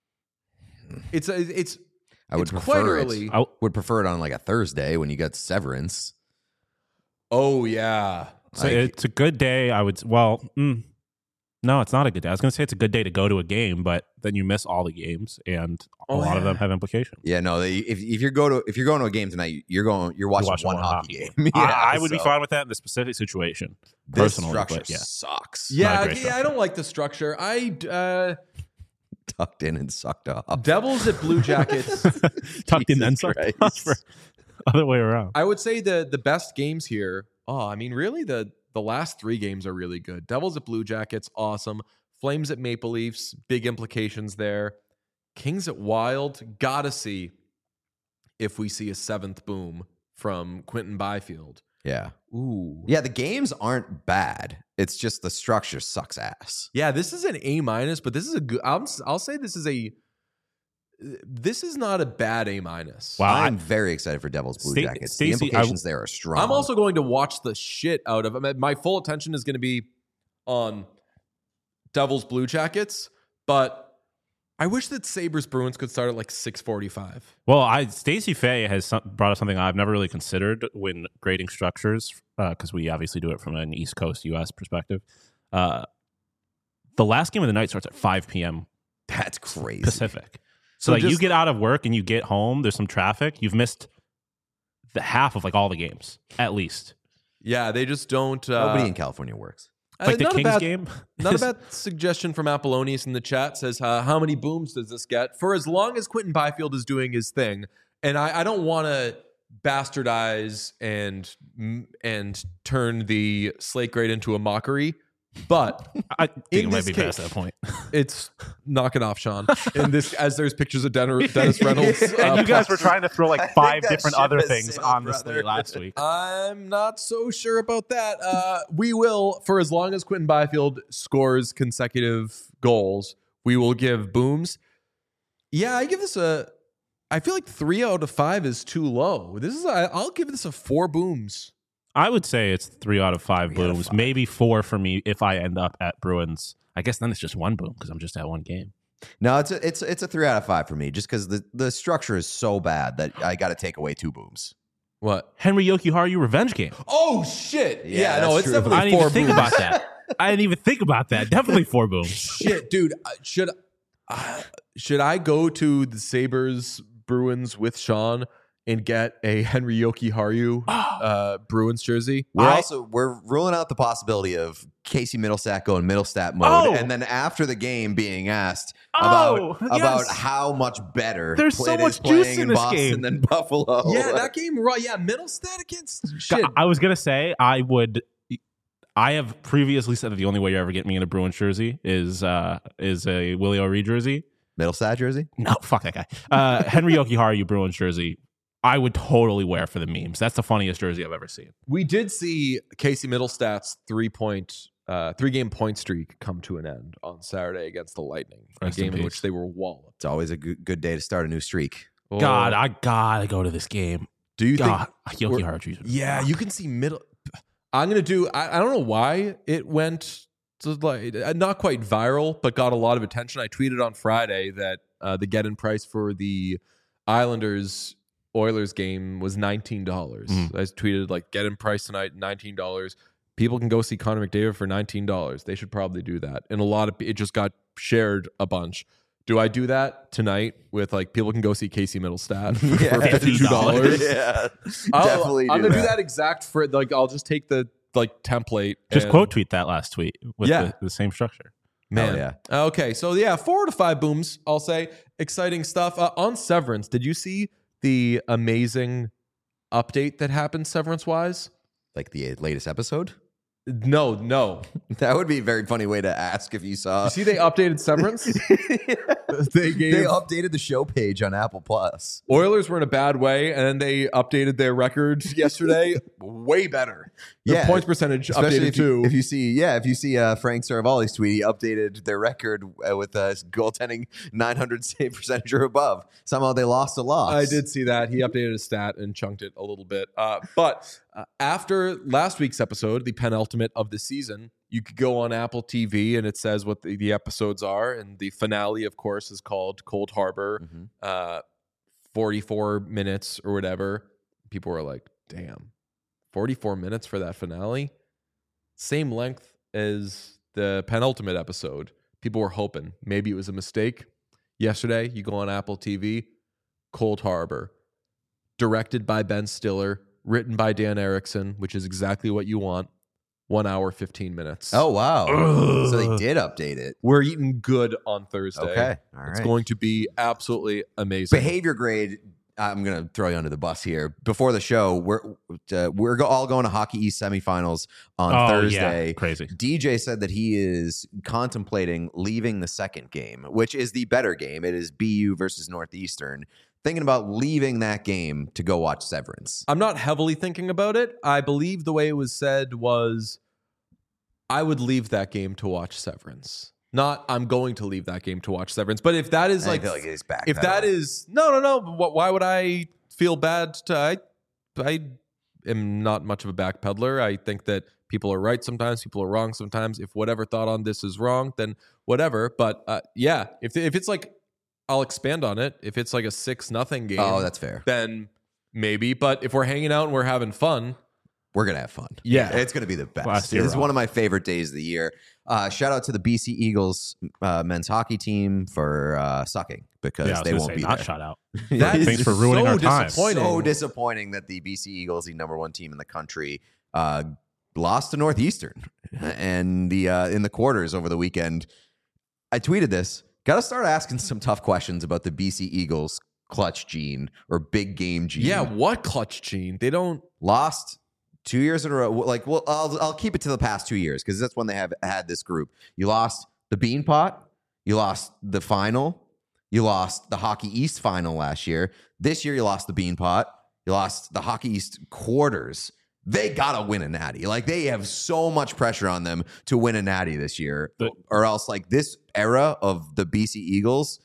It's a, it's
I would
it's
prefer
quite
it.
early.
I would prefer it on like a Thursday when you got Severance.
Oh, yeah.
So
Like-
it's a good day. I would. Well, mm, no, it's not a good day. I was going to say it's a good day to go to a game, but then you miss all the games, and a
Oh,
lot of
yeah.
them have implications.
Yeah, no. They, if if you're go to if you're going to a game tonight, you're going you're watching,
You're watching
one,
one
hockey
hockey
game.
I,
Yeah,
I would be
so
fine with that in the specific situation,
This
personally.
structure
But yeah,
sucks.
Yeah,
Not a great
yeah, I
structure.
don't like the structure. I uh,
Tucked in and sucked off.
Devils at Blue Jackets.
tucked in then
Jesus
sucked
Christ.
off, or other way around.
I would say the the best games here. Oh, I mean, really, the the last three games are really good. Devils at Blue Jackets, awesome. Flames at Maple Leafs, big implications there. Kings at Wild, gotta see if we see a seventh boom from Quentin Byfield.
Yeah.
Ooh,
Yeah, the games aren't bad. It's just the structure sucks ass.
yeah. This is an A minus, but this is a good. I'll I'll say this is a. This is not a bad A minus.
Wow.
I'm very excited for Devils Blue
Sta-
Jackets.
Stacey,
the implications there are strong.
I'm also going to watch the shit out of. I mean, my full attention is going to be on Devils Blue Jackets, but I wish that Sabres Bruins could start at like six forty-five.
Well, I Stacey Fay has some, brought up something I've never really considered when grading structures, because we obviously do it from an East Coast U S perspective. Uh, the last game of the night starts at five p.m.
That's crazy.
Pacific.
So
So, like you
just-
get out of work and you get home, there's some traffic, you've missed the half of like all the games, at least.
Yeah, they just don't. Uh,
Nobody in California works.
Like
uh,
the
not a
Kings
bad-
game.
Not a
is-
bad suggestion from Apollonius in the chat. Says, uh, how many booms does this get? For as long as Quentin Byfield is doing his thing. And I, I don't want to bastardize and and turn the slate grade into a mockery, but
I think
in
it might
this
be
case-
past that point.
it's knock it off, Sean. In this, as there's pictures of Den- Dennis Reynolds. uh,
And you guys were
plastered-
trying to throw
I
like
think
five
that
different
ship
other
has
things
sailed,
on this
brother.
slate last week.
I'm not so sure about that. Uh, we will, for as long as Quentin Byfield scores consecutive goals, we will give booms. Yeah, I give this a. I feel like three out of five is too low. This is. A, I'll give this a four booms.
I would say it's three out of five
Three out of
booms,
five.
maybe four for me if I end up at Bruins. I guess then it's just one boom because I'm just at one game.
No, it's a it's it's a three out of five for me, just because the, the structure is so bad that I got to take away two booms.
What?
Henry Yokiharu revenge game.
Oh shit! Yeah,
Yeah,
no,
that's
it's
true.
definitely
I didn't
four
even think
booms.
about that. I didn't even think about that. Definitely four booms.
Shit, dude. uh, Should uh, should I go to the Sabres Bruins with Sean and get a Henry Yokiharu uh, Bruins jersey?
We're
I-
also we're ruling out the possibility of Casey Middlestat going Middlestat mode,
Oh!
and then after the game being asked
Oh,
about about
yes.
how much better
There's so
it is
much juice
playing
in this
Boston
game.
than Buffalo.
Yeah, that game. Right? Yeah, Middlestat against shit.
I was gonna say I would. I have previously said that the only way you ever get me in a Bruins jersey is uh, is a Willie O'Ree jersey.
Middlestat jersey.
No, fuck that guy. Uh, Henry Yokiharu Bruins jersey. I would totally wear for the memes. That's the funniest jersey I've ever seen.
We did see Casey Middlestat's three point, uh, three game point streak come to an end on Saturday against the Lightning,
Rest
a
in
game in
peace.
which they were walloped.
It's always a good, good day to start a new streak.
God,
Oh.
I gotta go to this game.
do you
God,
think?
Yokiharu jersey.
Yeah, you can see middle. I'm gonna do. I, I don't know why it went to like uh, not quite viral, but got a lot of attention. I tweeted on Friday that uh, the get-in price for the Islanders Oilers game was nineteen dollars.
Mm.
I tweeted like, get in price tonight, nineteen dollars. People can go see Connor McDavid for nineteen dollars. They should probably do that. And a lot of it just got shared a bunch. Do I do that tonight with like people can go see Casey Middlestat for,
Yeah.
for fifty-two dollars?
Yeah,
I'll-
definitely.
I'm
do
gonna
that.
do that exact for like I'll just take the like template.
Just
and-
quote tweet that last tweet with
Yeah.
the, the same structure.
Man,
Hell
yeah. Okay, so yeah, four to five booms. I'll say exciting stuff uh, on Severance. Did you see the amazing update that happened Severance wise?
Like the latest episode.
No, no.
That would be a very funny way to ask if you saw.
You see, they updated Severance. They gave
They updated the show page on Apple Plus.
Oilers were in a bad way, and then they updated their record yesterday. Way better. Their
Yeah,
points percentage
Especially
updated
if you,
too.
if you see, yeah, if you see uh, Frank Saravalli's tweet, he updated their record uh, with uh, goaltending nine hundred save percentage or above. Somehow they lost a loss.
I did see that. He updated his stat and chunked it a little bit. Uh, but uh, after last week's episode, the penultimate of the season, you could go on Apple T V and it says what the, the episodes are. And the finale, of course, is called Cold Harbor,
Mhm.
uh, forty-four minutes or whatever. People were like, damn, forty-four minutes for that finale? Same length as the penultimate episode. People were hoping maybe it was a mistake. Yesterday, you go on Apple T V, Cold Harbor, directed by Ben Stiller, written by Dan Erickson, which is exactly what you want. One hour, fifteen minutes.
Oh wow!
Ugh.
So they did update it.
We're eating good on Thursday.
Okay, all right.
It's going to be absolutely amazing.
Behavior grade. I'm going to throw you under the bus here. Before the show, we're uh, we're go- all going to Hockey East semifinals on
Oh,
Thursday.
yeah. Crazy.
D J said that he is contemplating leaving the second game, which is the better game. It is B U versus Northeastern. Thinking about leaving that game to go watch Severance.
I'm not heavily thinking about it. I believe the way it was said was I would leave that game to watch Severance. Not I'm going to leave that game to watch Severance. But if that is
I
like,
feel like he's back.
if that is no, no, no. wh- Why would I feel bad? To I, I am not much of a backpedaler. I think that people are right sometimes, people are wrong sometimes. If whatever thought on this is wrong, then whatever. But uh, yeah, if if it's like, I'll expand on it. If it's like a six nothing game,
Oh, that's fair.
then maybe. But if we're hanging out and we're having fun,
We're gonna have fun.
Yeah.
it's gonna be the best.
Last year
It's
off.
one of my favorite days of the year. Uh, shout out to the B C Eagles uh, men's hockey team for uh, sucking because
Yeah, I was
they
gonna
won't
say,
be
not
there.
shout out.
that
Thanks
is
for ruining
so
our time.
disappointing.
So disappointing that the B C Eagles, the number one team in the country, uh, lost to Northeastern and the uh, in the quarters over the weekend. I tweeted this. Got to start asking some tough questions about the B C Eagles clutch gene or big game gene.
Yeah, what clutch gene? They don't.
Lost two years in a row. Like, well, I'll I'll keep it to the past two years because that's when they have had this group. You lost the Bean Pot. You lost the final. You lost the Hockey East final last year. This year, you lost the Bean Pot. You lost the Hockey East quarters. They gotta win a natty. Like, they have so much pressure on them to win a natty this year,
The-
or else like this era of the B C Eagles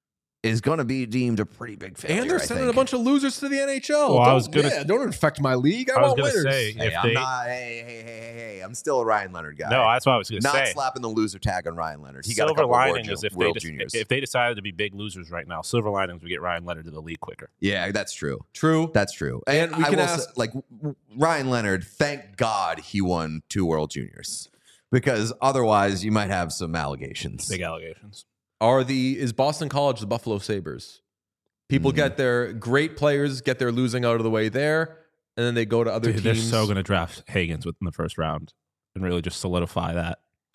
is going to be deemed a pretty big failure.
And they're
I
sending
think.
a bunch of losers to the N H L.
Well, I
Don't-
was gonna-
yeah, don't infect my league. I,
I was
want
gonna
winners.
say
Hey,
if
I'm
they
not. Hey, hey, hey, hey, hey! I'm still a Ryan Leonard guy.
no, that's what I was going to
not
say.
slapping the loser tag on Ryan Leonard. He got a
Silver
couple
lining
World,
is if they
World
just,
Juniors.
if they decided to be big losers right now, silver linings would get Ryan Leonard to the league quicker.
yeah, that's true.
True.
That's true.
And we
I
can
will
ask-
say, like w- Ryan Leonard. Thank God he won two World Juniors because otherwise you might have some allegations.
Big allegations.
Are the is Boston College the Buffalo Sabres? People
Mhm.
get their great players, get their losing out of the way there, and then they go to other
Dude, they're
teams.
so going to draft Hagans within the first round and really just solidify that.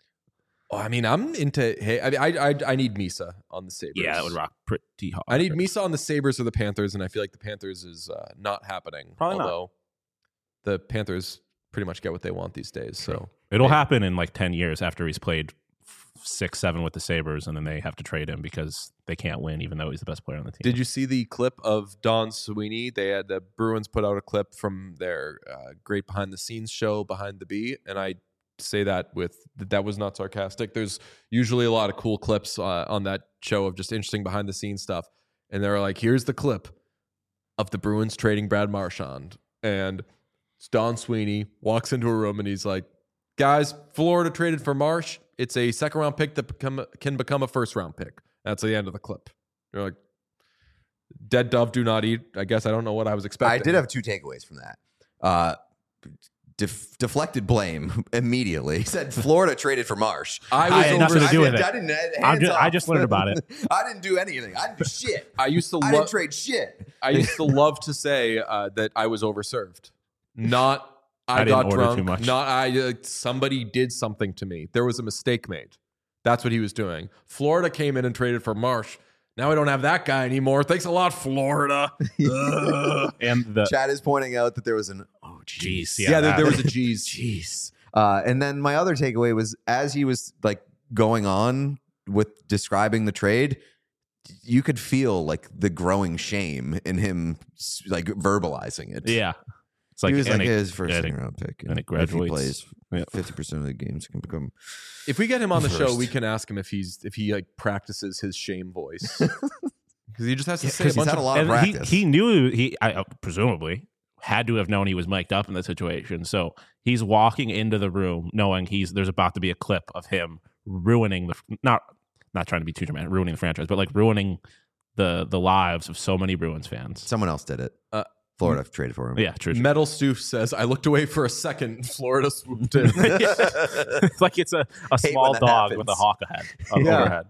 Oh, I mean, I'm into. Hey, I, I I I need Misa on the Sabres.
Yeah, that would rock pretty hard.
I need Misa on the Sabres or the Panthers, and I feel like the Panthers is uh, not happening.
Probably not.
although the Panthers pretty much get what they want these days. So
It'll happen in like ten years after he's played f- six, seven with the Sabres, and then they have to trade him because they can't win, even though he's the best player on the team.
did you see the clip of Don Sweeney? They had the Bruins put out a clip from their uh, great behind the scenes show, Behind the Bee, and I say that with that was not sarcastic. There's usually a lot of cool clips uh, on that show of just interesting behind the scenes stuff, and they're like, "Here's the clip of the Bruins trading Brad Marchand," and it's Don Sweeney walks into a room and he's like, "Guys, Florida traded for Marsh. It's a second round pick that become, can become a first round pick." That's the end of the clip. You're like, Dead dove do not eat. I guess I don't know what I was expecting.
I did have two takeaways from that. Uh, def- deflected blame immediately. He said Florida traded for Marsh.
I was
I had nothing
over-
to do
I
with
didn't-
it.
I didn't. hands
I'm just- I
off.
just learned about it.
I didn't do anything. I didn't do shit.
I used to
I
love.
didn't trade shit.
I used to love to say uh, that I was overserved. Not I,
I didn't
got
order
drunk.
too much.
Not I. Uh, somebody did something to me. There was a mistake made. That's what he was doing. Florida came in and traded for Marsh. Now I don't have that guy anymore. Thanks a lot, Florida. Ugh.
And the
Chad is pointing out that there was an oh jeez.
Jeez,
yeah,
yeah,
there,
that-
there was a G's.
Jeez. Uh, and then my other takeaway was as he was like going on with describing the trade, you could feel like the growing shame in him, s- like verbalizing it.
yeah, it's like,
he was
and
like
it-
his first
and it-
second round pick,
and it
if he
graduates.
plays
Yeah.
fifty percent of the games, can become.
If we get him on the show,
First.
we can ask him if he's if he like practices his shame voice because he just has to say a
'cause he's
bunch
had
of
a lot of
and he,
practice.
he knew he I, uh, presumably had to have known he was mic'd up in the situation. So he's walking into the room knowing he's there's about to be a clip of him ruining the not not trying to be too dramatic, ruining the franchise, but like ruining the the lives of so many Bruins fans.
Someone else did it.
Uh,
Florida traded for him.
Yeah, true. true.
Metal Stoof says, I looked away for a second. Florida swooped in.
It's like it's a, a
Hate
small
when that
dog
happens.
with a hawk head on
Yeah.
overhead.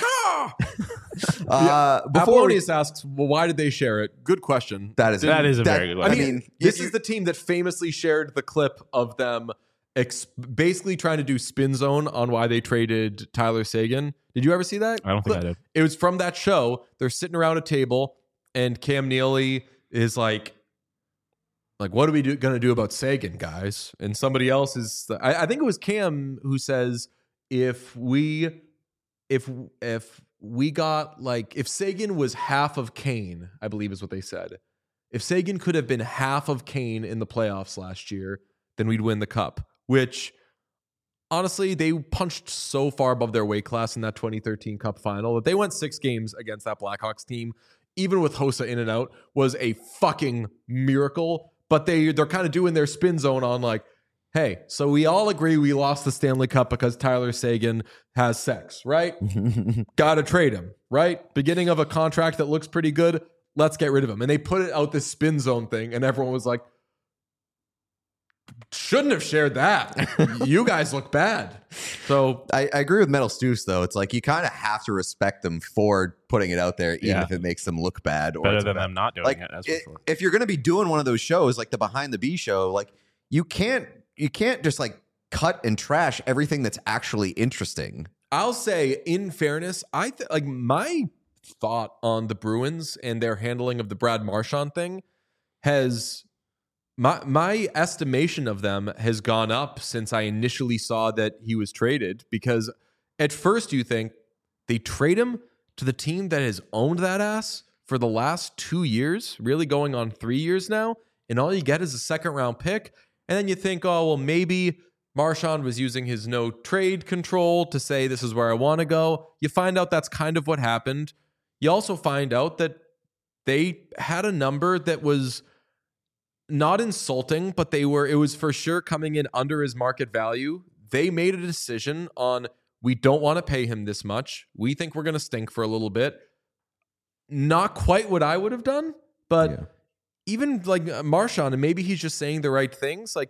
Uh, before we,
Apollonius asks, well, why did they share it? Good question.
that is
That is a very good
I
one.
mean, this is the team that famously shared the clip of them ex- basically trying to do spin zone on why they traded Tyler Sagan. Did you ever see that?
I don't think
clip?
I did.
It was from that show. They're sitting around a table, and Cam Neely is like, like, what are we do, gonna do about Sagan, guys? And somebody else is, I, I think it was Cam who says, if we, if if we got like, if Sagan was half of Kane, I believe is what they said. If Sagan could have been half of Kane in the playoffs last year, then we'd win the cup. Which, honestly, they punched so far above their weight class in that twenty thirteen Cup final that they went six games against that Blackhawks team, even with Hossa in and out, was a fucking miracle. But they, they're kind of doing their spin zone on like, hey, so we all agree we lost the Stanley Cup because Tyler Sagan has sex, right? Got to trade him, right? Beginning of a contract that looks pretty good. Let's get rid of him. And they put it out this spin zone thing, and everyone was like, shouldn't have shared that. You guys look bad. So
I, I agree with Metal Stews, though. It's like you kind of have to respect them for putting it out there, even
Yeah.
if it makes them look bad. Or
Better
it's
than
bad.
them not doing
Like,
it. That's
i-
for sure.
if you're going to be doing one of those shows, like the Behind the Bee show, like you can't you can't just like cut and trash everything that's actually interesting.
I'll say, in fairness, I th- like my thought on the Bruins and their handling of the Brad Marchand thing has my my estimation of them has gone up since I initially saw that he was traded. Because at first you think they trade him to the team that has owned that ass for the last two years, really going on three years now, and all you get is a second round pick. And then you think, oh, well, maybe Marchand was using his no trade control to say, this is where I want to go. You find out that's kind of what happened. You also find out that they had a number that was not insulting, but they were, it was for sure coming in under his market value. They made a decision on, we don't want to pay him this much. We think we're going to stink for a little bit. Not quite what I would have done, but
Yeah.
even like uh, Marchand, and maybe he's just saying the right things. Like,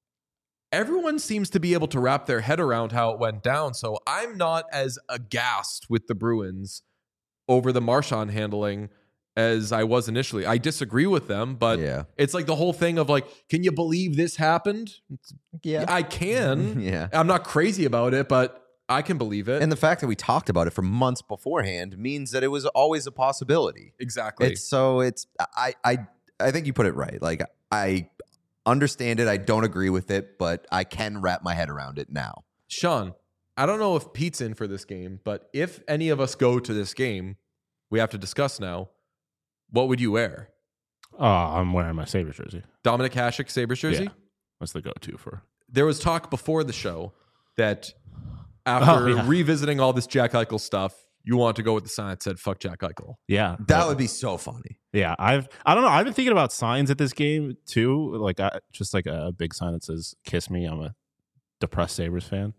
everyone seems to be able to wrap their head around how it went down. So I'm not as aghast with the Bruins over the Marchand handling as I was initially. I disagree with them, but
Yeah.
it's like the whole thing of like, can you believe this happened?
Yeah.
I can.
Yeah.
I'm not crazy about it, but I can believe it.
And the fact that we talked about it for months beforehand means that it was always a possibility.
exactly.
It's so it's I I I think you put it right. Like I understand it. I don't agree with it, but I can wrap my head around it now.
Sean, I don't know if Pete's in for this game, but if any of us go to this game, we have to discuss now. What would you wear?
Oh, I'm wearing my Sabres jersey.
Dominic Hasek Sabres jersey?
Yeah. That's the go-to for.
There was talk before the show that after
Oh, yeah.
revisiting all this Jack Eichel stuff, you want to go with the sign that said "fuck Jack Eichel."
Yeah,
That would be so funny.
Yeah, I've I don't know. I've been thinking about signs at this game too. Like I, just like a big sign that says "Kiss me." I'm a depressed Sabres fan.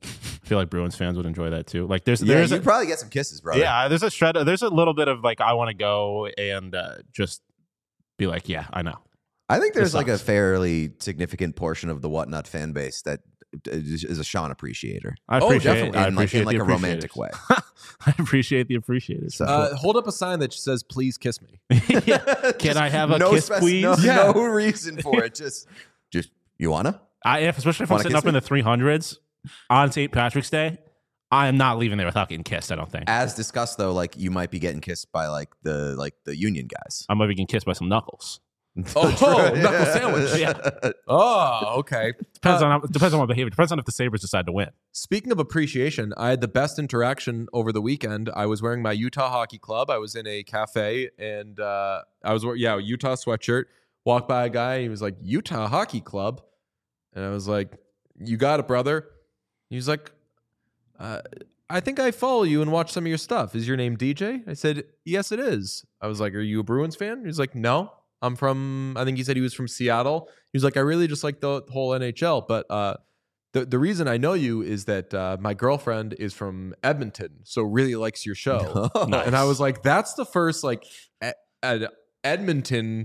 I feel like Bruins fans would enjoy that too. Like there's
Yeah,
there's
you'd
a,
probably get some kisses, brother.
yeah, there's a shred. There's a little bit of like I want to go and uh, just be like, yeah, I know.
I think there's
This
like a
sucks.
fairly significant portion of the Whatnot fan base that is is a Sean appreciator.
I
Oh,
appreciate
definitely.
it. I
In like,
appreciate
in like
the
a romantic way.
I appreciate the appreciators.
So-
Uh, hold up a sign that says "Please kiss me."
yeah. Can I have a
no
kiss,
spec-
please?
No,
Yeah.
no reason for it. Just, just you wanna?
I, if, especially if I'm
Wanna
sitting
kiss
up in
me?
the three hundreds on Saint Patrick's Day, I am not leaving there without getting kissed. I don't think.
As discussed, though, like you might be getting kissed by like the like the union guys.
I might be getting kissed by some knuckles.
Oh,
True.
knuckle sandwich.
Yeah.
Oh, okay.
Depends
Uh,
on how, depends on what behavior. Depends on if the Sabres decide to win.
Speaking of appreciation, I had the best interaction over the weekend. I was wearing my Utah Hockey Club. I was in a cafe and uh, I was wearing, yeah, a Utah sweatshirt. Walked by a guy and he was like, Utah Hockey Club. And I was like, you got it, brother. He was like, uh, I think I follow you and watch some of your stuff. Is your name D J? I said, yes, it is. I was like, are you a Bruins fan? He was like, no. I'm from, I think he said he was from Seattle. He was like, I really just like the whole N H L. But uh, the, the reason I know you is that uh, my girlfriend is from Edmonton, so really likes your show.
Nice.
And I was like, that's the first like e- Ed- Edmonton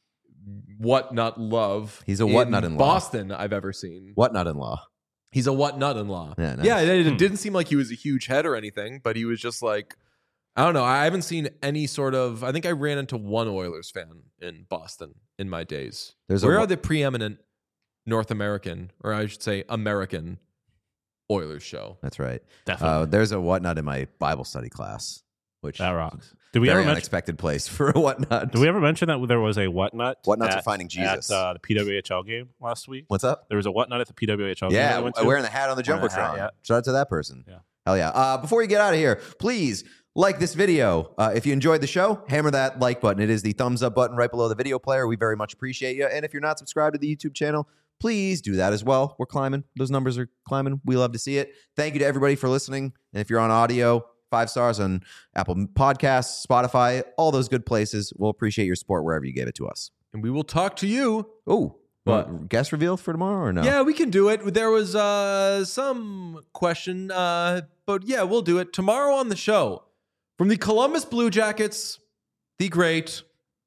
whatnot love.
He's a
in
whatnot-in-law.
Boston I've ever seen.
Whatnot in law.
He's a whatnot in law.
Yeah, nice.
Yeah, it, it
Hmm.
didn't seem like he was a huge head or anything, but he was just like, I don't know. I haven't seen any sort of. I think I ran into one Oilers fan in Boston in my days.
There's a
Where
wa-
are the preeminent North American, or I should say American, Oilers show?
That's right.
Definitely.
Uh, there's a whatnot in my Bible study class, which
that rocks. Did we
very
ever mention?
unexpected place for a whatnot.
Did we ever mention that there was a whatnot?
Whatnots are
at-
finding Jesus.
at uh, the P W H L game last week.
What's up?
There was a whatnot at the P W H L game. that
Yeah,
I went to.
wearing the hat on the
Wearing the hat,
jumbotron.
yeah.
Shout out to that person.
Yeah.
Hell yeah. Uh, before you get out of here, please like this video. Uh, if you enjoyed the show, hammer that like button. It is the thumbs up button right below the video player. We very much appreciate you. And if you're not subscribed to the YouTube channel, please do that as well. We're climbing. Those numbers are climbing. We love to see it. Thank you to everybody for listening. And if you're on audio, five stars on Apple Podcasts, Spotify, all those good places. We'll appreciate your support wherever you gave it to us.
And we will talk to you.
Oh,
What?
guest reveal for tomorrow or no?
Yeah, we can do it. There was uh, some question, uh, but yeah, we'll do it tomorrow on the show. From the Columbus Blue Jackets, the great,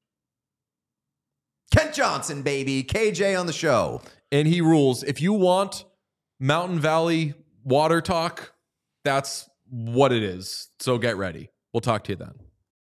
Kent Johnson, baby. K J on the show.
and he rules. If you want Mountain Valley water talk, that's what it is. So get ready. We'll talk to you then.